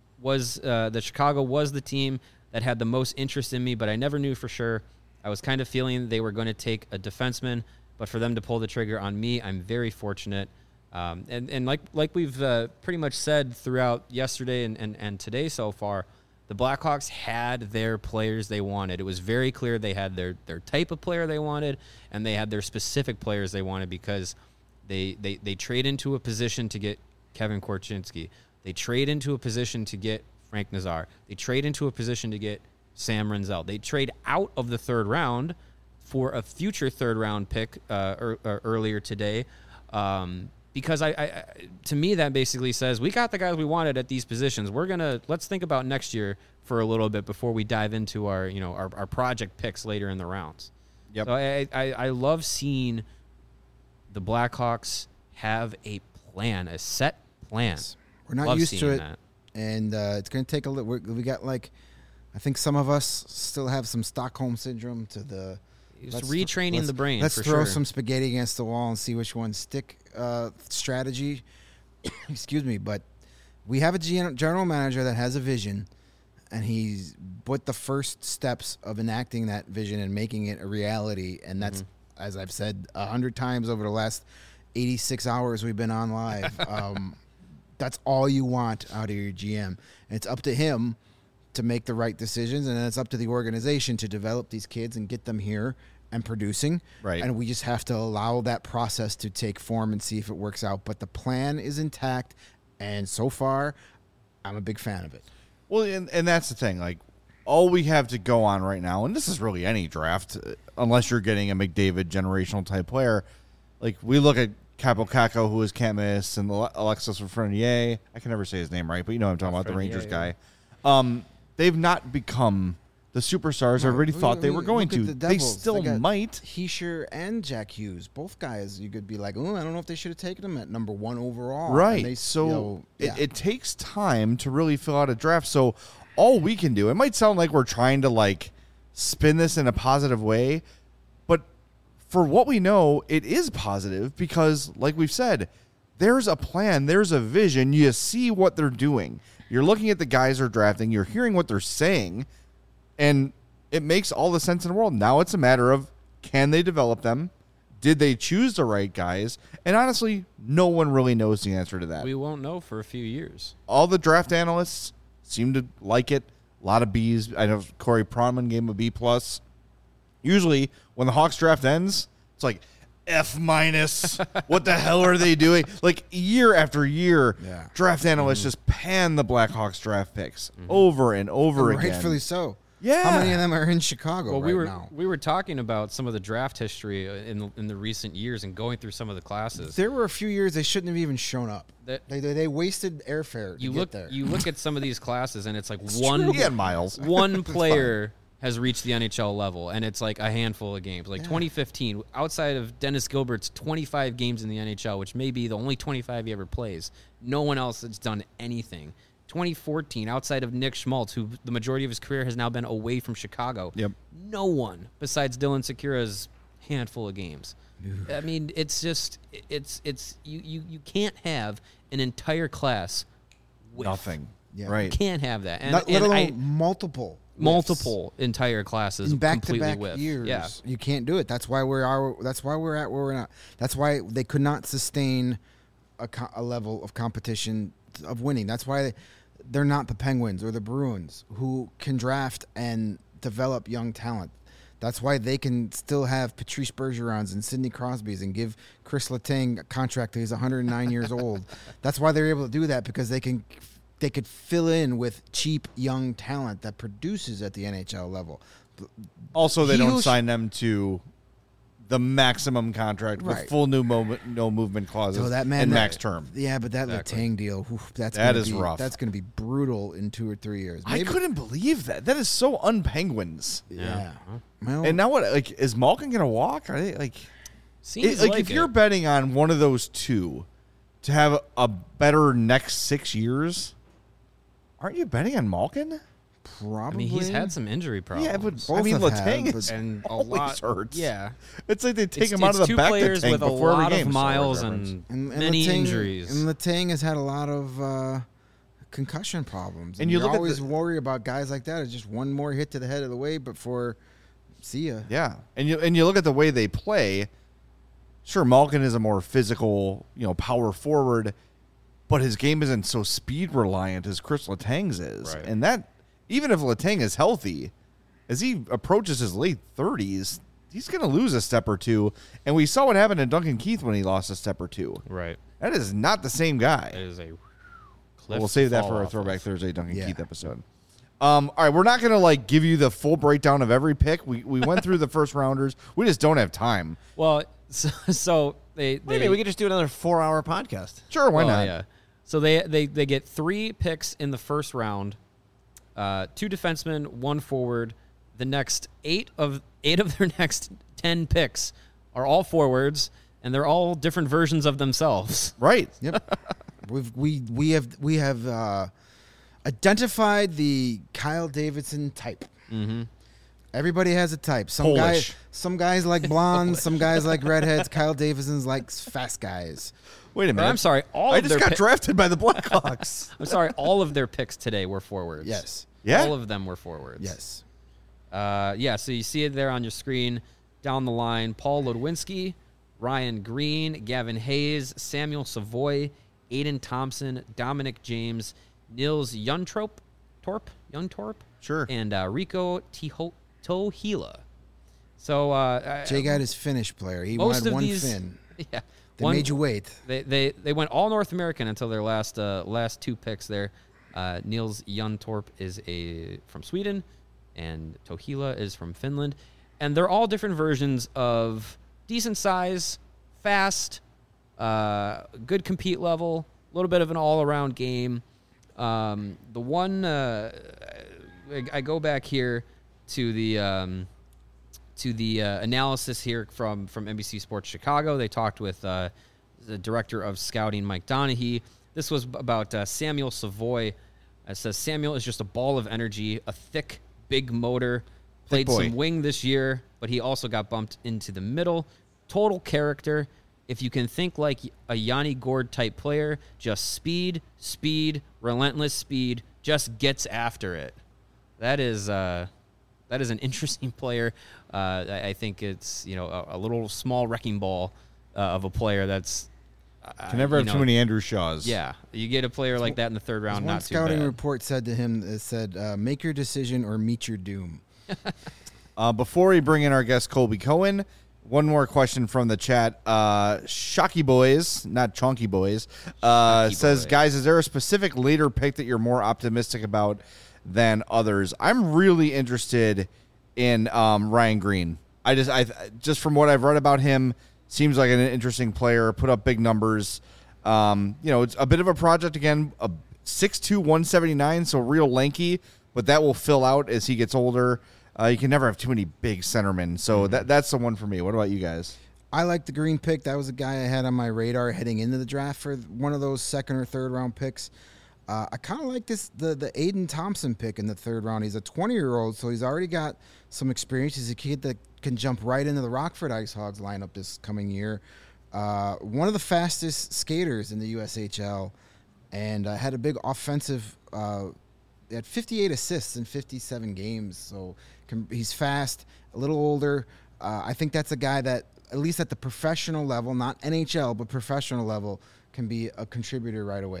was uh, that Chicago was the team that had the most interest in me, but I never knew for sure. I was kind of feeling they were going to take a defenseman, but for them to pull the trigger on me, I'm very fortunate. Um, and, and like like we've uh, pretty much said throughout yesterday and, and, and today so far, the Blackhawks had their players they wanted. It was very clear they had their, their type of player they wanted, and they had their specific players they wanted because they, they, they trade into a position to get Kevin Korchinski. They trade into a position to get Frank Nazar. They trade into a position to get Sam Renzel. They trade out of the third round for a future third-round pick uh, er, er, earlier today. Um Because I, I, to me, that basically says we got the guys we wanted at these positions. We're gonna let's think about next year for a little bit before we dive into our, you know, our, our project picks later in the rounds. Yep. So I, I, I love seeing the Blackhawks have a plan, a set plan. We're not Love used to seeing it, that. and uh, it's going to take a little. We got like, I think some of us still have some Stockholm syndrome to the. It's let's- retraining let's- the brain. Let's for throw sure. some spaghetti against the wall and see which ones stick. Uh, strategy, excuse me, but we have a gen- general manager that has a vision, and he's put the first steps of enacting that vision and making it a reality. And that's, mm-hmm. as I've said a hundred times over the last eighty-six hours we've been on live. um, that's all you want out of your G M, and it's up to him to make the right decisions, and then it's up to the organization to develop these kids and get them here and producing. Right. And we just have to allow that process to take form and see if it works out. But the plan is intact, and so far, I'm a big fan of it. Well, and, and that's the thing. Like, all we have to go on right now, and this is really any draft, uh, unless you're getting a McDavid generational type player. Like, we look at Capo Caco, who is Camus, and Ale- Alexis Lafreniere. I can never say his name right, but you know what I'm talking about, the Rangers yeah. guy. Um, they've not become the superstars everybody Look- thought they were look going at to. the They Devils. still They got might. Heischer and Jack Hughes, both guys, you could be like, oh, I don't know if they should have taken them at number one overall. Right. And they, so you know, yeah. it, it takes time to really fill out a draft. So all we can do, it might sound like we're trying to like spin this in a positive way, but for what we know, it is positive because, like we've said, there's a plan, there's a vision. You see what they're doing. You're looking at the guys they're drafting. You're hearing what they're saying, and it makes all the sense in the world. Now it's a matter of, can they develop them? Did they choose the right guys? And honestly, no one really knows the answer to that. We won't know for a few years. All the draft analysts seem to like it. A lot of B's. I know Corey Pronman gave him a B plus. Usually, when the Hawks draft ends, it's like F minus. What the hell are they doing? Like year after year, Yeah. draft analysts Mm-hmm. just pan the Blackhawks draft picks over and over And again. rightfully so. Yeah. How many of them are in Chicago Well, right we were now? we were talking about some of the draft history in the, in the recent years and going through some of the classes. There were a few years they shouldn't have even shown up. That- They, they, they wasted airfare to you get look there. you look at some of these classes and it's like one True. Yeah, Miles. one player has reached the N H L level, and it's like a handful of games. Like twenty fifteen, outside of Dennis Gilbert's twenty-five games in the N H L, which may be the only twenty-five he ever plays, no one else has done anything. twenty fourteen, outside of Nick Schmaltz, who the majority of his career has now been away from Chicago, Yep. no one besides Dylan Sekura's handful of games. I mean, it's just it's it's you you you can't have an entire class with Nothing. Yeah. Right. Can't have that. And, Not, let and alone I- multiple. multiple entire classes in back to completely back with. years. Yeah. You can't do it. That's why we're are. That's why we're at where we're at. That's why they could not sustain a, co- a level of competition of winning. That's why they're not the Penguins or the Bruins who can draft and develop young talent. That's why they can still have Patrice Bergerons and Sidney Crosbys and give Chris Letang a contract till he's one hundred nine years old. That's why they're able to do that, because they can they could fill in with cheap young talent that produces at the N H L level. Also, they He don't who- sign them to the maximum contract with Right. full new moment, no movement clauses So that man, and that- max term. Yeah, but that Exactly. Letang deal, whew, that's That gonna is be, rough. That's going to be brutal in two or three years. I couldn't believe that. That is so un-Penguins. Yeah. Huh? Well, And now what? Like, is Malkin gonna walk? Are they like? Seems It- like, like if you're it. betting on one of those two to have a better next six years, aren't you betting on Malkin? probably. I mean, he's had some injury problems. Yeah, but I Both mean, have Letang had, is but- and a always lot hurts. Yeah, It's like they take it's, him out it's of the two back players tank with a before every lot game. of Star miles reference. and, and, and many Letang, injuries. And Letang has had a lot of uh, concussion problems. And And, you you look at always the- worry about guys like that. It's just one more hit to the head of the way before see ya. Yeah, and you and you look at the way they play. Sure, Malkin is a more physical, you know, power forward, but his game isn't so speed reliant as Chris Letang's is, Right. and that even if Letang is healthy, as he approaches his late thirties, he's going to lose a step or two. And we saw what happened to Duncan Keith when he lost a step or two. right. That is not the same guy. It is a We'll cliff to save that fall for our off Throwback of. Thursday Duncan Yeah. Keith episode. Um, all right, we're not going to like give you the full breakdown of every pick. We we went through the first rounders. We just don't have time. Well, so, so they, What do they you mean? We could just do another four-hour podcast. Sure, why well, not? Yeah. So they, they they get three picks in the first round, uh, two defensemen, one forward. The next eight of eight of their next ten picks are all forwards, and they're all different versions of themselves. Right. Yep. We've we we have we have uh, identified the Kyle Davidson type. Mm-hmm. Everybody has a type. Some Polish. guys, some guys like blondes, some guys like redheads. Kyle Davidson's likes fast guys. Wait a minute. I'm sorry, all I of just their got pi- drafted by the Blackhawks. I'm sorry, all of their picks today were forwards. Yes. Yeah? all of them were forwards. Yes. Uh, yeah, so you see it there on your screen. Down the line, Paul Ludwinski, Ryan Green, Gavin Hayes, Samuel Savoy, Aiden Thompson, Dominic James, Nils Juntorp, Torp, Juntorp, Sure. and uh, Rico Tiho- Tohila. So uh, Jay got his Finnish player. He most had of one these, fin. yeah, They one- made you wait. They, they they went all North American until their last uh, last two picks there. Uh, Niels Juntorp is a from Sweden, and Tohila is from Finland, and they're all different versions of decent size, fast, uh, good compete level, a little bit of an all around game. Um, the one uh, I, I go back here to the. Um, to the uh, analysis here from, from N B C Sports Chicago. They talked with uh, the director of scouting, Mike Donahue. This was about uh, Samuel Savoy. It says Samuel is just a ball of energy, a thick, big motor. Played boy. some wing this year, but he also got bumped into the middle. Total character. If you can think like a Yanni Gord type player, just speed, speed, relentless speed, just gets after it. That is uh, that is an interesting player. Uh, I, I think it's you know a, a little small wrecking ball uh, of a player that's uh, Can never you have too know, many Andrew Shaws. Yeah, you get a player like that in the third round, One not too scouting bad. report said to him, it said, uh, make your decision or meet your doom. Uh, before we bring in our guest Colby Cohen, one more question from the chat. Uh, Shocky Boys, not Chonky Boys, uh, Shocky says, Boy. guys, is there a specific later pick that you're more optimistic about than others? I'm really interested in um, Ryan Green. I just, I just from what I've read about him, seems like an interesting player. Put up big numbers. Um, you know, it's a bit of a project again. A six two, one seventy-nine, so real lanky, but that will fill out as he gets older. Uh, you can never have too many big centermen, so Mm-hmm. that that's the one for me. What about you guys? I like the Green pick. That was a guy I had on my radar heading into the draft for one of those second or third round picks. Uh, I kind of like this the the Aiden Thompson pick in the third round. He's a twenty year old, so he's already got some experience. He's a kid that can jump right into the Rockford Ice Hogs lineup this coming year. Uh, one of the fastest skaters in the U S H L, and uh, had a big offensive. Uh, he had fifty-eight assists in fifty-seven games, so can, he's fast, a little older. Uh, I think that's a guy that, at least at the professional level, not N H L, but professional level, can be a contributor right away.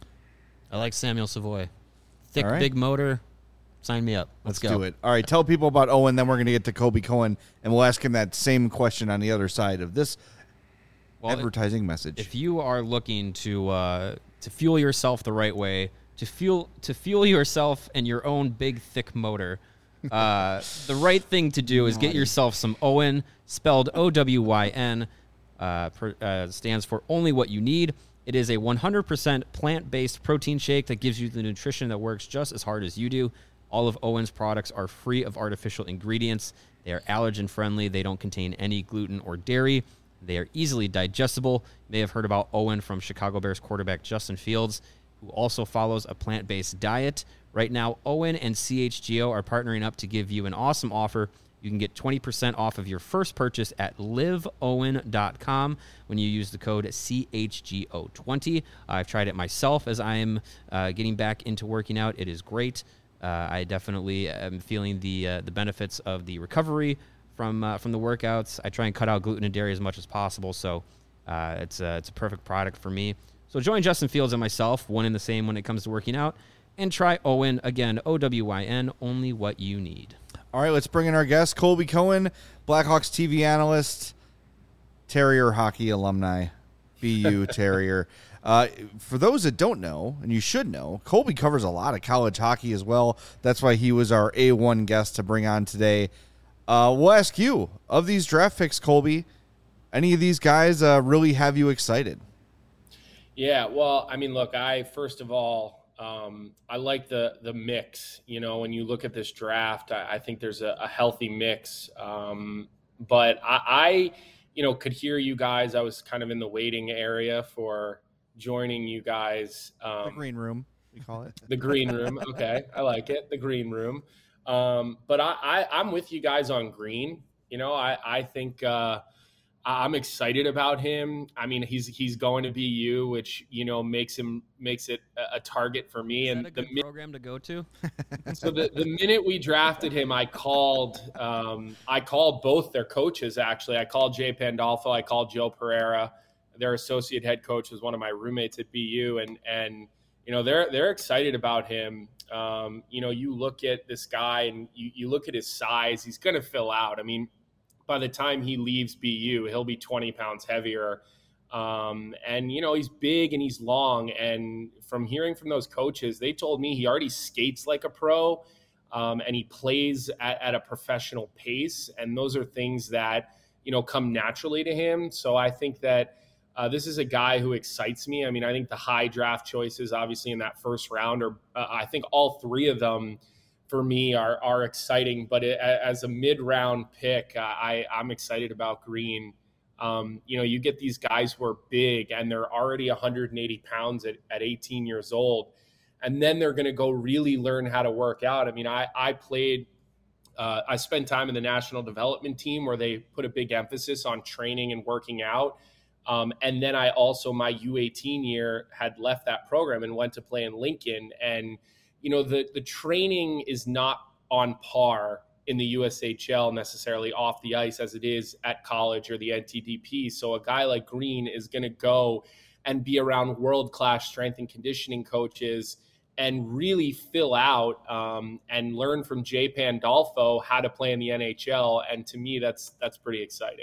I like Samuel Savoy. Thick, All right. big motor. Sign me up. Let's, Let's go. do it. All right, tell people about Owen, then we're going to get to Colby Cohen, and we'll ask him that same question on the other side of this Well, advertising message. If you are looking to uh, to fuel yourself the right way, to fuel to fuel yourself and your own big thick motor, Uh, the right thing to do is get yourself some Owen, spelled O W Y N, uh, per, uh, stands for only what you need. It is a one hundred percent plant-based protein shake that gives you the nutrition that works just as hard as you do. All of Owen's products are free of artificial ingredients. They are allergen-friendly. They don't contain any gluten or dairy. They are easily digestible. You may have heard about Owen from Chicago Bears quarterback Justin Fields, who also follows a plant-based diet. Right now, Owen and C H G O are partnering up to give you an awesome offer. You can get twenty percent off of your first purchase at live owen dot com when you use the code C H G O twenty. I've tried it myself as I am uh, getting back into working out. It is great. Uh, I definitely am feeling the uh, the benefits of the recovery from uh, from the workouts. I try and cut out gluten and dairy as much as possible, so uh, it's a, it's a perfect product for me. So join Justin Fields and myself, one and the same when it comes to working out, and try Owen, again, O W Y N, only what you need. All right, let's bring in our guest, Colby Cohen, Blackhawks T V analyst, Terrier hockey alumni, B U Terrier. Uh, for those that don't know, and you should know, Colby covers a lot of college hockey as well. That's why he was our A one guest to bring on today. Uh, we'll ask you, of these draft picks, Colby, any of these guys uh, really have you excited? Yeah, well, I mean, look, I, first of all, um, I like the the mix. You know, when you look at this draft, I, I think there's a, a healthy mix. Um, but I, I, you know, could hear you guys. I was kind of in the waiting area for joining you guys. Um, the green room, we call it. The green room. Okay. I like it. The green room. Um, but I, I, I'm with you guys on Green. You know, I, I think uh, I'm excited about him. I mean, he's he's going to B U, which, you know, makes him makes it a, a target for me. Is and that a good the program to go to? So the, the minute we drafted him, I called um, I called both their coaches, actually. I called Jay Pandolfo. I called Joe Pereira. Their associate head coach was one of my roommates at B U, and and you know they're they're excited about him. Um, you know, you look at this guy and you, you look at his size; he's going to fill out. I mean, by the time he leaves B U, he'll be twenty pounds heavier, um, and you know he's big and he's long. And from hearing from those coaches, they told me he already skates like a pro, um, and he plays at, at a professional pace. And those are things that you know come naturally to him. So I think that. Uh, this is a guy who excites me. I mean, I think the high draft choices, obviously in that first round, are uh, I think all three of them for me are are exciting. But it, as a mid round pick, uh, I I'm excited about Green. Um, you know, you get these guys who are big and they're already one hundred eighty pounds at, at eighteen years old, and then they're going to go really learn how to work out. I mean, I I played. Uh, I spent time in the national development team where they put a big emphasis on training and working out. Um, and then I also, my U eighteen year, had left that program and went to play in Lincoln. And, you know, the, the training is not on par in the U S H L necessarily off the ice as it is at college or the N T D P. So a guy like Green is going to go and be around world-class strength and conditioning coaches and really fill out um, and learn from Jay Pandolfo how to play in the N H L. And to me, that's that's pretty exciting.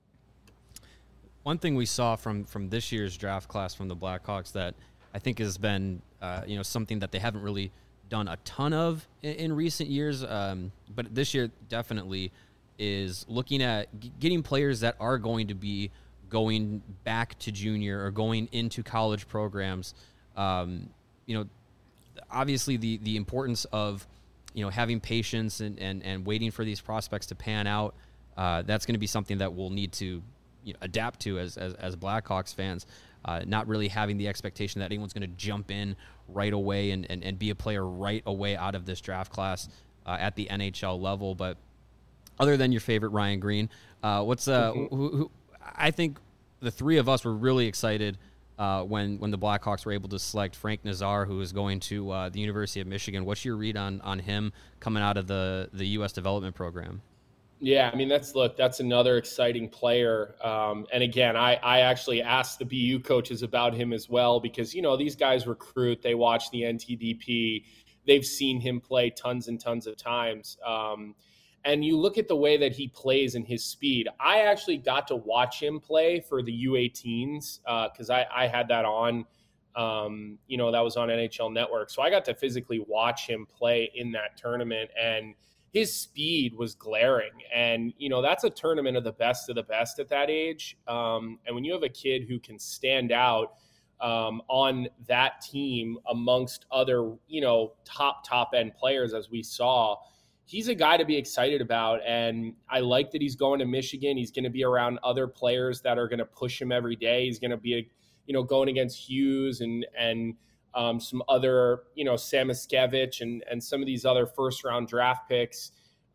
One thing we saw from from this year's draft class from the Blackhawks that I think has been uh, you know something that they haven't really done a ton of in, in recent years, um, but this year definitely is looking at g- getting players that are going to be going back to junior or going into college programs. Um, you know, obviously the the importance of you know having patience and and, and waiting for these prospects to pan out. Uh, that's going to be something that we'll need to. You know, adapt to as as, as Blackhawks fans, uh, not really having the expectation that anyone's going to jump in right away and, and, and be a player right away out of this draft class uh, at the N H L level. But other than your favorite Ryan Green, uh, what's uh, mm-hmm. who, who I think the three of us were really excited uh, when when the Blackhawks were able to select Frank Nazar, who is going to uh, the University of Michigan. What's your read on on him coming out of the the U S development program? Yeah, I mean, that's, look, that's another exciting player. Um, and again, I, I actually asked the B U coaches about him as well, because, you know, these guys recruit, they watch the N T D P, they've seen him play tons and tons of times. Um, and you look at the way that he plays and his speed. I actually got to watch him play for the U eighteens because uh, I, I had that on, um, you know, that was on N H L Network. So I got to physically watch him play in that tournament. And his speed was glaring. And, you know, that's a tournament of the best of the best at that age. Um, and when you have a kid who can stand out um, on that team amongst other, you know, top, top end players, as we saw, he's a guy to be excited about. And I like that he's going to Michigan. He's going to be around other players that are going to push him every day. He's going to be, a, you know, going against Hughes and, and, Um, some other, you know, Samiskevich and, and some of these other first round draft picks.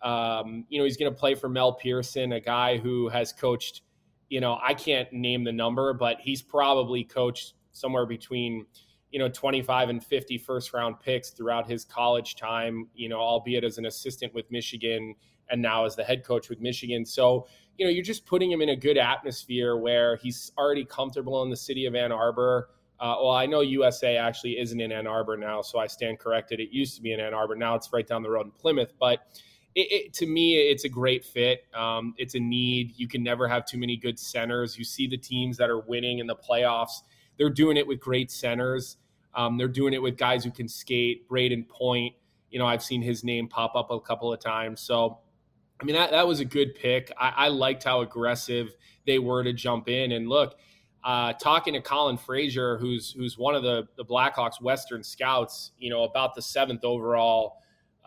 Um, you know, he's going to play for Mel Pearson, a guy who has coached, you know, I can't name the number, but he's probably coached somewhere between, you know, twenty-five and fifty first round picks throughout his college time, you know, albeit as an assistant with Michigan and now as the head coach with Michigan. So, you know, you're just putting him in a good atmosphere where he's already comfortable in the city of Ann Arbor. Uh, well, I know U S A actually isn't in Ann Arbor now, so I stand corrected. It used to be in Ann Arbor. Now it's right down the road in Plymouth. But it, it, to me, it's a great fit. Um, it's a need. You can never have too many good centers. You see the teams that are winning in the playoffs. They're doing it with great centers. Um, they're doing it with guys who can skate. Braden Point, you know, I've seen his name pop up a couple of times. So, I mean, that, that was a good pick. I, I liked how aggressive they were to jump in. And look, Uh, talking to Colin Frazier, who's who's one of the, the Blackhawks Western scouts, you know, about the seventh overall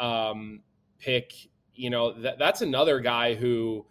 um, pick, you know, that, that's another guy who,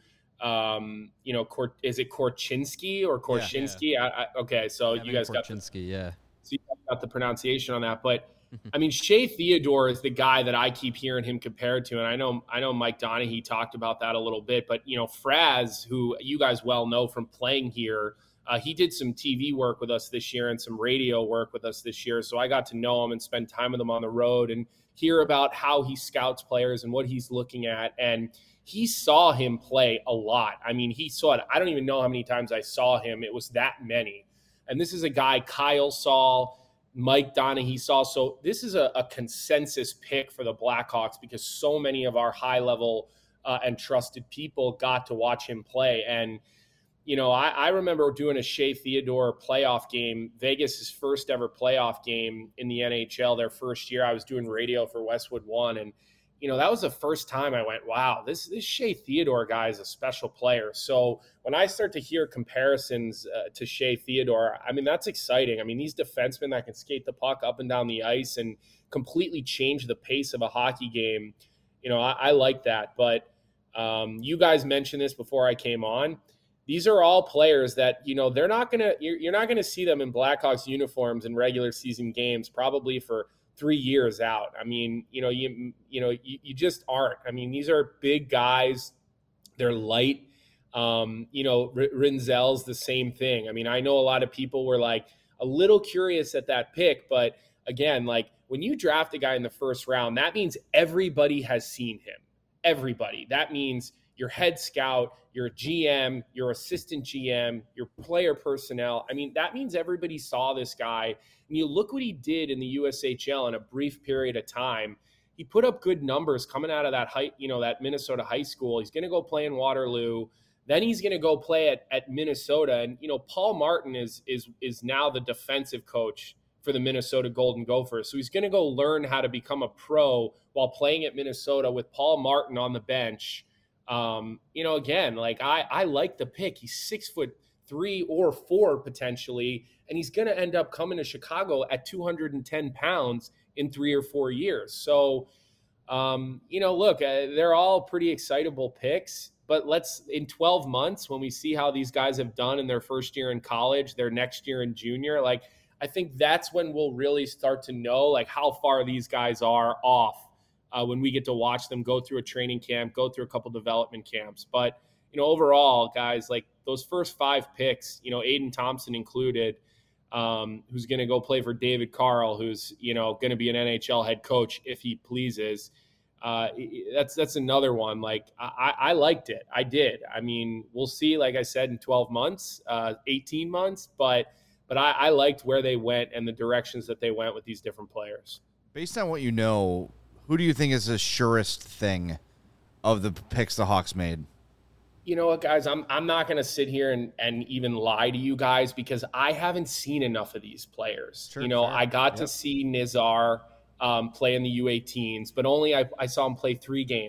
um, you know, Kor, is it Korchinski or Korchinski? Yeah, yeah. I, I, okay, so Kevin you guys Korchinski, got the, yeah. So you got the pronunciation on that, but I mean, Shea Theodore is the guy that I keep hearing him compared to, and I know I know Mike Donaghy talked about that a little bit, but you know, Fraz, who you guys well know from playing here. Uh, he did some T V work with us this year and some radio work with us this year. So I got to know him and spend time with him on the road and hear about how he scouts players and what he's looking at. And he saw him play a lot. I mean, he saw it. I don't even know how many times I saw him. It was that many. And this is a guy Kyle saw, Mike Donaghy saw. So this is a, a consensus pick for the Blackhawks because so many of our high-level uh, and trusted people got to watch him play. And You know, I, I remember doing a Shea Theodore playoff game, Vegas's first ever playoff game in the N H L, their first year. I was doing radio for Westwood One. And, you know, that was the first time I went, wow, this, this Shea Theodore guy is a special player. So when I start to hear comparisons uh, to Shea Theodore, I mean, that's exciting. I mean, these defensemen that can skate the puck up and down the ice and completely change the pace of a hockey game, you know, I, I like that. But um, you guys mentioned this before I came on. These are all players that, you know, they're not going to, you're, you're not going to see them in Blackhawks uniforms in regular season games probably for three years out. I mean, you know, you, you know, you, you just aren't. I mean, these are big guys. They're light. Um, you know, R- Rinzel's the same thing. I mean, I know a lot of people were like a little curious at that pick, but again, like when you draft a guy in the first round, that means everybody has seen him. Everybody. That means your head scout, your G M, your assistant G M, your player personnel. I mean, that means everybody saw this guy. And you look what he did in the U S H L in a brief period of time. He put up good numbers coming out of that high, you know, that Minnesota high school. He's going to go play in Waterloo. Then he's going to go play at, at Minnesota. And, you know, Paul Martin is is is now the defensive coach for the Minnesota Golden Gophers. So he's going to go learn how to become a pro while playing at Minnesota with Paul Martin on the bench. Um, you know, again, like I, I like the pick. He's six foot three or four potentially, and he's going to end up coming to Chicago at two hundred ten pounds in three or four years. So, um, you know, look, uh, they're all pretty excitable picks, but let's in twelve months, when we see how these guys have done in their first year in college, their next year in junior, like, I think that's when we'll really start to know like how far these guys are off. Uh, when we get to watch them go through a training camp, go through a couple development camps. But, you know, overall, guys, like those first five picks, you know, Aiden Thompson included, um, who's going to go play for David Carl, who's, you know, going to be an N H L head coach if he pleases. Uh, that's that's another one. Like, I, I liked it. I did. I mean, we'll see, like I said, in twelve months, uh, eighteen months. But, but I, I liked where they went and the directions that they went with these different players. Based on what you know, who do you think is the surest thing of the picks the Hawks made? You know what, guys, I'm I'm not going to sit here and, and even lie to you guys because I haven't seen enough of these players. Sure, you know, sure. I got Yep. to see Nizar um, play in the U eighteens, but only I, I saw him play three games.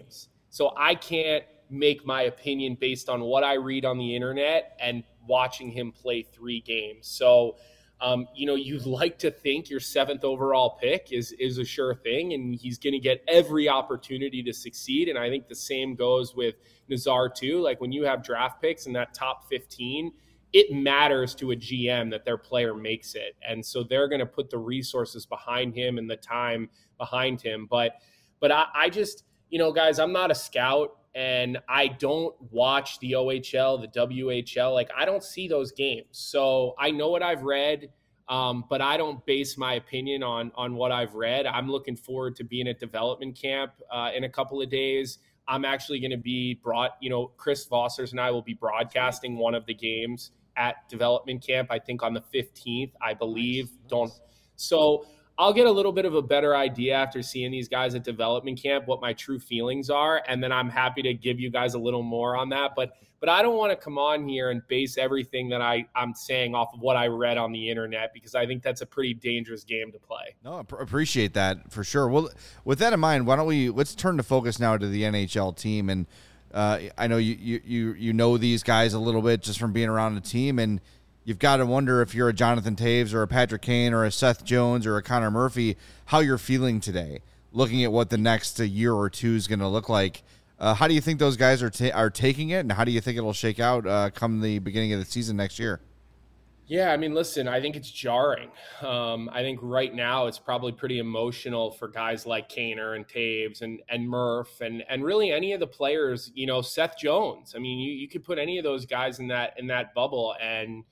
So I can't make my opinion based on what I read on the internet and watching him play three games. So, um, you know, you'd like to think your seventh overall pick is is a sure thing, and he's going to get every opportunity to succeed. And I think the same goes with Nazar too. Like when you have draft picks in that top fifteen, it matters to a G M that their player makes it. And so they're going to put the resources behind him and the time behind him. But, but I, I just, you know, guys, I'm not a scout. And I don't watch the O H L, the W H L. Like, I don't see those games. So I know what I've read, um, but I don't base my opinion on, on what I've read. I'm looking forward to being at development camp uh, in a couple of days. I'm actually going to be brought, you know, Chris Vossers and I will be broadcasting one of the games at development camp, I think on the fifteenth, I believe. Nice. Don't. So I'll get a little bit of a better idea after seeing these guys at development camp, what my true feelings are. And then I'm happy to give you guys a little more on that. But but I don't want to come on here and base everything that I, I'm saying off of what I read on the internet, because I think that's a pretty dangerous game to play. No, I pr- appreciate that for sure. Well, with that in mind, why don't we, let's turn the focus now to the N H L team. And uh, I know you, you, you, you know these guys a little bit just from being around the team, and you've got to wonder if you're a Jonathan Toews or a Patrick Kane or a Seth Jones or a Connor Murphy, how you're feeling today, looking at what the next uh, year or two is going to look like. Uh, how do you think those guys are ta- are taking it, and how do you think it'll shake out uh, come the beginning of the season next year? Yeah, I mean, listen, I think it's jarring. Um, I think right now it's probably pretty emotional for guys like Kaner and Toews and and Murph and and really any of the players. You know, Seth Jones. I mean, you, you could put any of those guys in that in that bubble, and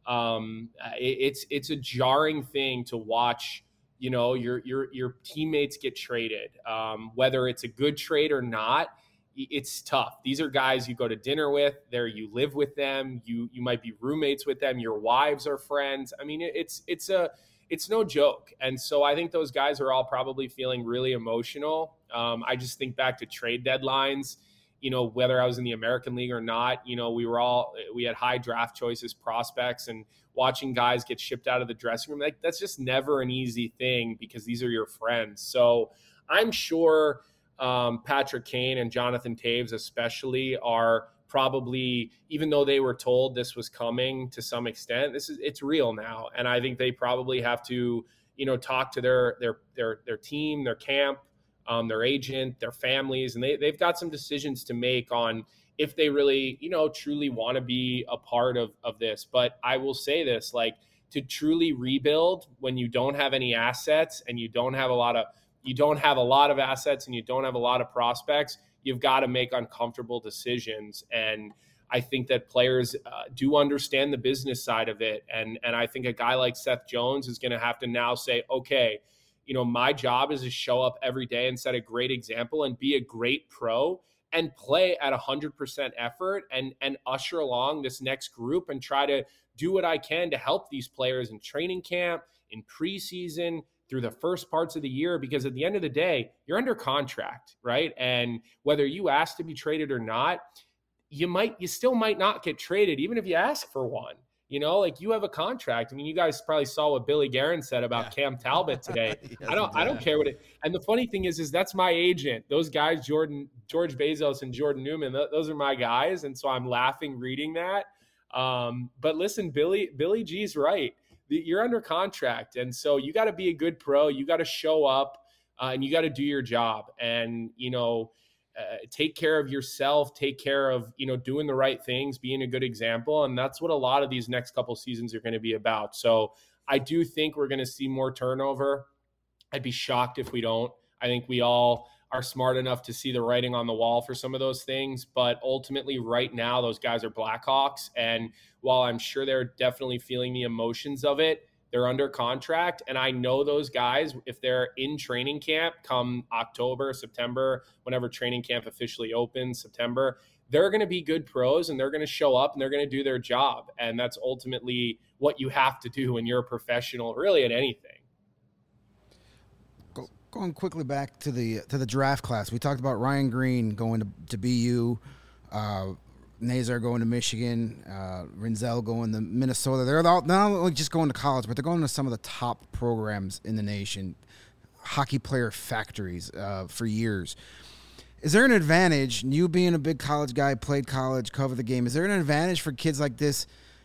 um, it, it's it's a jarring thing to watch. You know, your your your teammates get traded, um, whether it's a good trade or not. It's tough. These are guys you go to dinner with, there you live with them, you you might be roommates with them, your wives are friends. I mean, it's it's a it's no joke. And so I think those guys are all probably feeling really emotional. Um, I just think back to trade deadlines, you know, whether I was in the American League or not, you know, we were all we had high draft choices, prospects, and watching guys get shipped out of the dressing room, like that's just never an easy thing because these are your friends. So I'm sure Um, Patrick Kane and Jonathan Toews especially are probably, even though they were told this was coming to some extent, this is it's real now. And I think they probably have to, you know, talk to their their their their team, their camp, um, their agent, their families, and they they've got some decisions to make on if they really, you know, truly want to be a part of of this. But I will say this, like, to truly rebuild when you don't have any assets and you don't have a lot of you don't have a lot of assets and you don't have a lot of prospects, you've got to make uncomfortable decisions. And I think that players uh, do understand the business side of it. And, and I think a guy like Seth Jones is going to have to now say, okay, you know, my job is to show up every day and set a great example and be a great pro and play at one hundred percent effort and, and usher along this next group and try to do what I can to help these players in training camp, in preseason, through the first parts of the year, because at the end of the day, you're under contract, right? And whether you ask to be traded or not, you might, you still might not get traded, even if you ask for one. You know, like you have a contract. I mean, you guys probably saw what Billy Guerin said about yeah. Cam Talbot today. yes, I don't, I don't care what it. And the funny thing is, is that's my agent. Those guys, Jordan, George Bezos, and Jordan Newman. Th- those are my guys, and so I'm laughing reading that. Um, but listen, Billy, Billy G's right. You're under contract. And so you got to be a good pro. You got to show up uh, and you got to do your job and, you know, uh, take care of yourself, take care of, you know, doing the right things, being a good example. And that's what a lot of these next couple seasons are going to be about. So I do think we're going to see more turnover. I'd be shocked if we don't. I think we all are smart enough to see the writing on the wall for some of those things. But ultimately right now, those guys are Blackhawks. And while I'm sure they're definitely feeling the emotions of it, they're under contract. And I know those guys, if they're in training camp come October, September, whenever training camp officially opens, September, they're going to be good pros and they're going to show up and they're going to do their job. And that's ultimately what you have to do when you're a professional, really at anything. Going quickly back to the to the draft class, we talked about Ryan Green going to, to B U, uh, Nazar going to Michigan, uh, Rinzel going to Minnesota. They're all, not only just going to college, but they're going to some of the top programs in the nation, hockey player factories uh, for years. Is there an advantage, you being a big college guy, played college, cover the game, is there an advantage for kids like this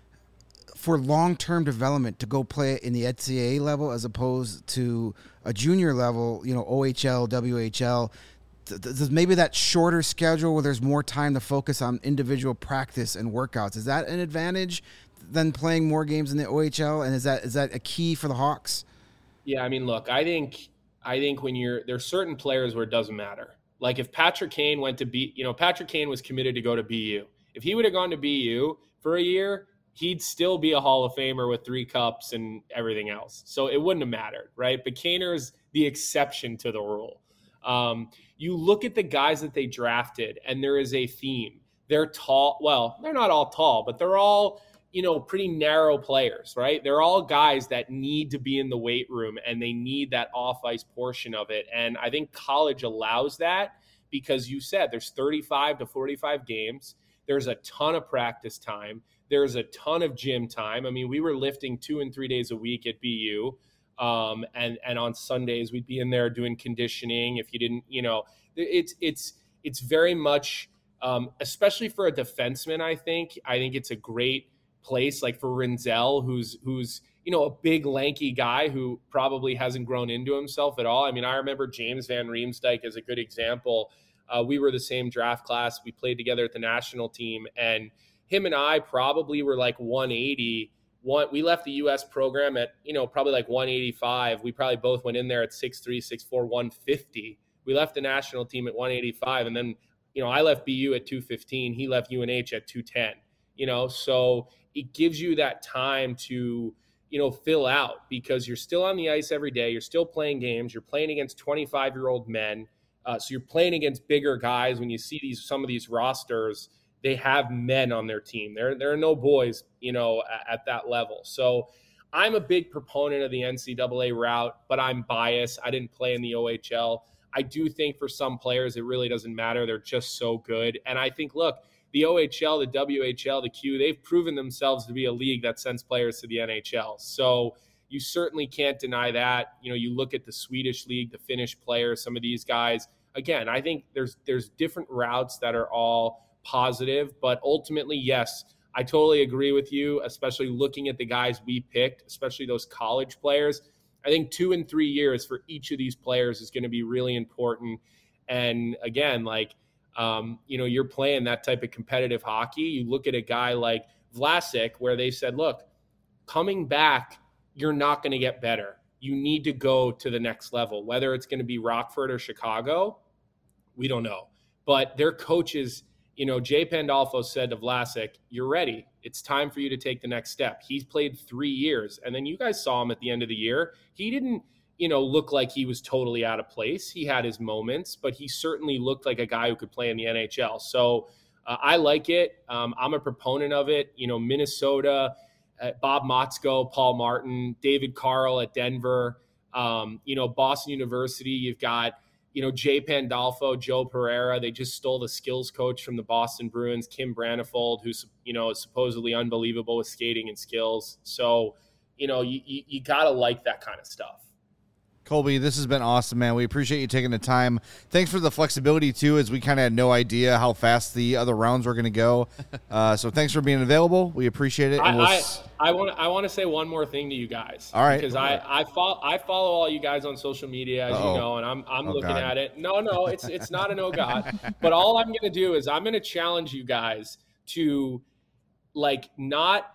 for long-term development to go play in the N C double A level as opposed to a junior level, you know, O H L, W H L? Does maybe that shorter schedule where there's more time to focus on individual practice and workouts, is that an advantage than playing more games in the O H L? And is that is that a key for the Hawks? Yeah, I mean, look, I think I think when you're there's certain players where it doesn't matter. Like if Patrick Kane went to B, you know, Patrick Kane was committed to go to B U. If he would have gone to B U for a year, he'd still be a Hall of Famer with three cups and everything else. So it wouldn't have mattered, right? But Kaner's the exception to the rule. Um, you look at the guys that they drafted, and there is a theme. They're tall. Well, they're not all tall, but they're all, you know, pretty narrow players, right? They're all guys that need to be in the weight room, and they need that off-ice portion of it. And I think college allows that because you said there's thirty-five to forty-five games. There's a ton of practice time. There's a ton of gym time. I mean, we were lifting two and three days a week at B U. Um, and, and on Sundays we'd be in there doing conditioning. If you didn't, you know, it's, it's, it's very much, um, especially for a defenseman, I think, I think it's a great place. Like for Rinzel, who's, who's, you know, a big lanky guy who probably hasn't grown into himself at all. I mean, I remember James Van Riemsdyk as a good example. Uh, we were the same draft class. We played together at the national team, and him and I probably were like one eighty. One, we left the U S program at, you know, probably like one eighty-five. We probably both went in there at six three, six four, one fifty. We left the national team at one eighty-five. And then, you know, I left B U at two fifteen. He left U N H at two ten, you know, so it gives you that time to, you know, fill out because you're still on the ice every day. You're still playing games. You're playing against twenty-five-year-old men. Uh, so you're playing against bigger guys. When you see these, some of these rosters, they have men on their team. There, there are no boys, you know, at, at that level. So I'm a big proponent of the N C double A route, but I'm biased. I didn't play in the O H L. I do think for some players, it really doesn't matter. They're just so good. And I think, look, the O H L, the W H L, the Q, they've proven themselves to be a league that sends players to the N H L. So you certainly can't deny that. You know, you look at the Swedish league, the Finnish players, some of these guys. Again, I think there's there's different routes that are all positive, but ultimately, yes, I totally agree with you, especially looking at the guys we picked, especially those college players. I think two and three years for each of these players is going to be really important. And again, like, um, you know, you're playing that type of competitive hockey. You look at a guy like Vlasic, where they said, look, coming back, you're not going to get better. You need to go to the next level, whether it's going to be Rockford or Chicago. We don't know. But their coaches, you know, Jay Pandolfo said to Vlasic, you're ready. It's time for you to take the next step. He's played three years. And then you guys saw him at the end of the year. He didn't, you know, look like he was totally out of place. He had his moments, but he certainly looked like a guy who could play in the N H L. So uh, I like it. Um, I'm a proponent of it. You know, Minnesota, uh, Bob Motzko, Paul Martin, David Carl at Denver, um, you know, Boston University, you've got, you know, Jay Pandolfo, Joe Pereira. They just stole the skills coach from the Boston Bruins, Kim Branifold, who's, you know, is supposedly unbelievable with skating and skills. So, you know, you, you, you got to like that kind of stuff. Colby, this has been awesome, man. We appreciate you taking the time. Thanks for the flexibility, too, as we kind of had no idea how fast the other rounds were going to go. Uh, so thanks for being available. We appreciate it. And I, we'll I, s- I want I want to say one more thing to you guys. All right. Because I, I, follow, I follow all you guys on social media, as Uh-oh. you know, and I'm, I'm Oh, looking God. at it. No, no, it's it's not an oh, God. But all I'm going to do is I'm going to challenge you guys to, like, not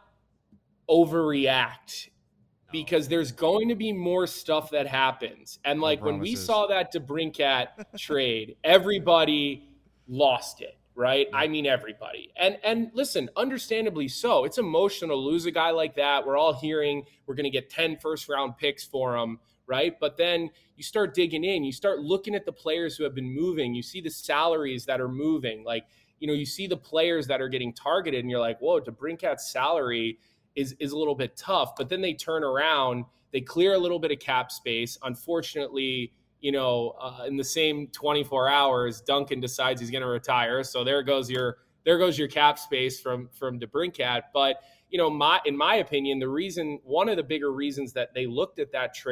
overreact. Because there's going to be more stuff that happens. And like when we promises. saw that DeBrincat trade, everybody lost it, right? I mean, everybody. And and listen, understandably so. It's emotional to lose a guy like that. We're all hearing we're going to get ten first round picks for him, right? But then you start digging in, you start looking at the players who have been moving. You see the salaries that are moving. Like, you know, you see the players that are getting targeted and you're like, whoa, DeBrincat's salary is is a little bit tough, but then they turn around, they clear a little bit of cap space. Unfortunately, you know, uh, in the same twenty-four hours, Duncan decides he's going to retire. So there goes your, there goes your cap space from, from DeBrincat. But, you know, my, in my opinion, the reason, one of the bigger reasons that they looked at that trade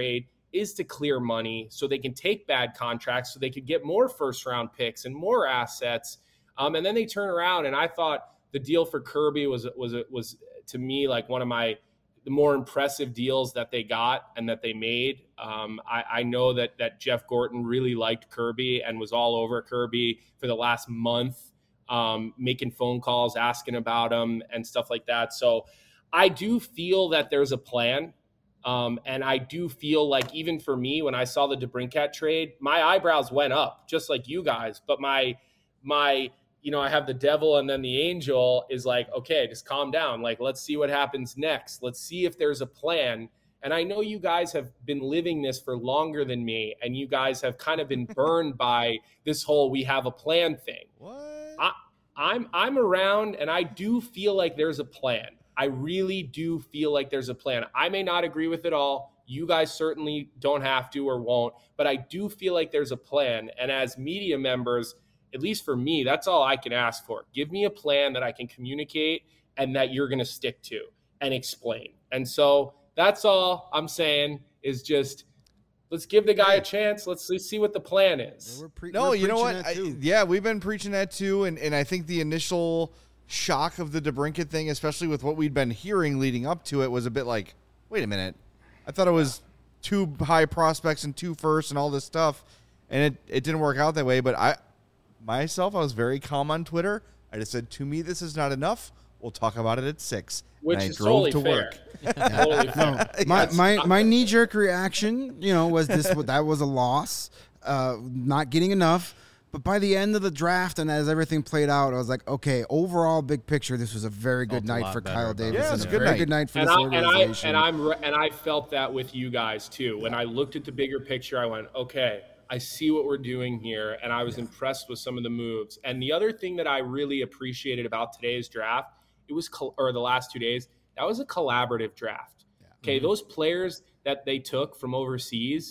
is to clear money so they can take bad contracts so they could get more first round picks and more assets. Um, and then they turn around, and I thought the deal for Kirby was was was to me like one of my the more impressive deals that they got and that they made. Um, I, I know that that Jeff Gorton really liked Kirby and was all over Kirby for the last month, um, making phone calls, asking about him and stuff like that. So I do feel that there's a plan. Um, and I do feel like even for me, when I saw the DeBrincat trade, my eyebrows went up just like you guys. But my, my, you know, I have the devil and then the angel is like, okay, just calm down. Like, let's see what happens next. Let's see if there's a plan. And I know you guys have been living this for longer than me. And you guys have kind of been burned by this whole, we have a plan thing. What? I, I'm, I'm around and I do feel like there's a plan. I really do feel like there's a plan. I may not agree with it all. You guys certainly don't have to or won't, but I do feel like there's a plan. And as media members, at least for me, that's all I can ask for. Give me a plan that I can communicate and that you're going to stick to and explain. And so that's all I'm saying is just let's give the guy a chance. Let's, let's see what the plan is. Yeah, we're pre- No, we're you know preaching what? that I, too. yeah, we've been preaching that too. And, and I think the initial shock of the DeBrincat thing, especially with what we'd been hearing leading up to it, was a bit like, wait a minute. I thought it was two high prospects and two firsts and all this stuff. And it, it didn't work out that way. But I myself, I was very calm on Twitter. I just said, to me, this is not enough. We'll talk about it at six. Which and I is drove totally to fair. work. Totally fair. My Yes. my my knee jerk reaction, you know, was this that was a loss, uh, not getting enough. But by the end of the draft and as everything played out, I was like, okay, overall big picture, this was a very good Felt a night lot for better Kyle about Davis. it. Yeah, and it's a a good very night. good night for and this I, and I organization. and I'm re- and I felt that with you guys too. When I looked at the bigger picture, I went, okay, I see what we're doing here, and I was yeah. impressed with some of the moves. And the other thing that I really appreciated about today's draft, it was col- or the last two days, that was a collaborative draft. Yeah. Okay, mm-hmm. Those players that they took from overseas,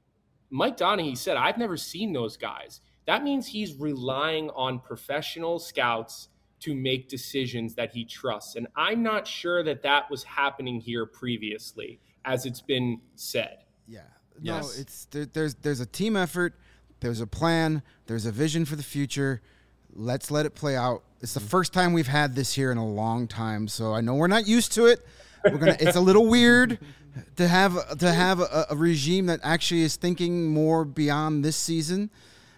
Mike Donaghy said, I've never seen those guys. That means he's relying on professional scouts to make decisions that he trusts. And I'm not sure that that was happening here previously, as it's been said. Yeah. Yes. No, it's there, there's there's a team effort, there's a plan, there's a vision for the future. Let's let it play out. It's the first time we've had this here in a long time, so I know we're not used to it. We're gonna. It's a little weird to have to have a, a regime that actually is thinking more beyond this season.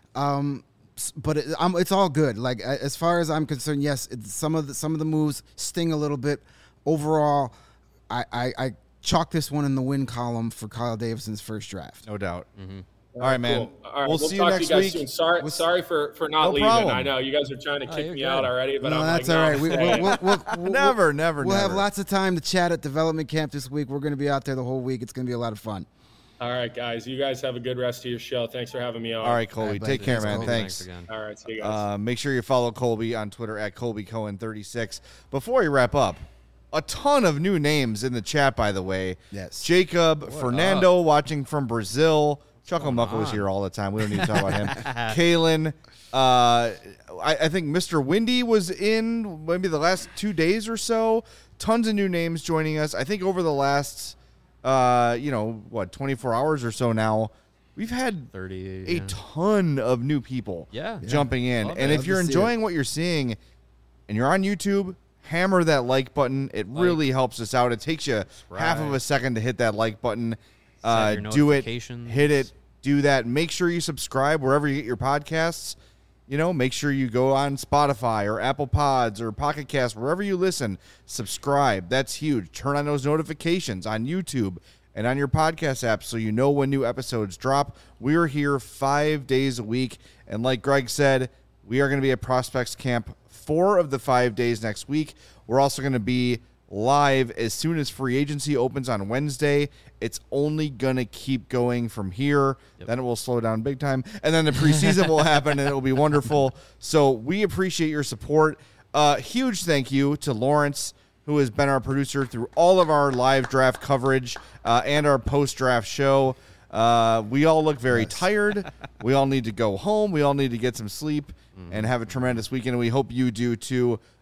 Um, but it, I'm, it's all good. Like as far as I'm concerned, yes, it's, some of the some of the moves sting a little bit. Overall, I, I, I chalk this one in the win column for Kyle Davison's first draft. No doubt. Mm-hmm. All right, man. Cool. All right, we'll, we'll see talk you next to you guys week. soon. Sorry, We'll sorry for, for not No leaving. problem. I know you guys are trying to Oh, kick you're me good. out already, but no, I'm that's like, all no, right. I'm We, staying. we'll, we'll, we'll, Never, never, We'll never. have lots of time to chat at development camp this week. We're going to be out there the whole week. It's going to be a lot of fun. All right, guys. You guys have a good rest of your show. Thanks for having me on. All right, Colby. All right, Take buddy. care, Thanks, man. Colby. Thanks. again. All right, see you guys. Uh, make sure you follow Colby on Twitter at Colby Cohen thirty-six. Before we wrap up, a ton of new names in the chat, by the way. Yes. Jacob, Fernando watching from Brazil. Chuckle Muckle is on? here all the time. We don't need to talk about him. Kalen. Uh, I, I think Mister Windy was in maybe the last two days or so. Tons of new names joining us. I think over the last, uh, you know, what, twenty-four hours or so now, we've had thirty a yeah. ton of new people Yeah. jumping in. Love And it. if Love you're to see enjoying what you're seeing and you're on YouTube, hammer that like button. It really helps us out. It takes you half of a second to hit that like button. Uh, your do it, notifications. hit it, do that. Make sure you subscribe wherever you get your podcasts. You know, make sure you go on Spotify or Apple Pods or Pocket Cast, wherever you listen. Subscribe. That's huge. Turn on those notifications on YouTube and on your podcast app so you know when new episodes drop. We're here five days a week. And like Greg said, we are going to be at Prospects Camp four of the five days next week. We're also going to be live as soon as free agency opens on Wednesday. It's only going to keep going from here. Yep. Then it will slow down big time. And then the preseason will happen, and it will be wonderful. So we appreciate your support. Uh, huge thank you to Lawrence, who has been our producer through all of our live draft coverage uh, and our post-draft show. Uh, we all look very yes. tired. We all need to go home. We all need to get some sleep mm. and have a tremendous weekend, and we hope you do too.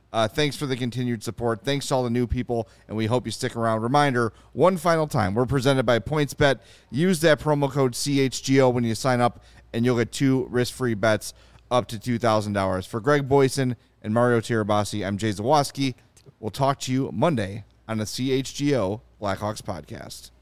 Uh, thanks for the continued support. Thanks to all the new people, and we hope you stick around. Reminder, one final time, we're presented by PointsBet. Use that promo code C H G O when you sign up, and you'll get two risk-free bets up to two thousand dollars. For Greg Boyson and Mario Tirabassi, I'm Jay Zawoski. We'll talk to you Monday on the C H G O Blackhawks podcast.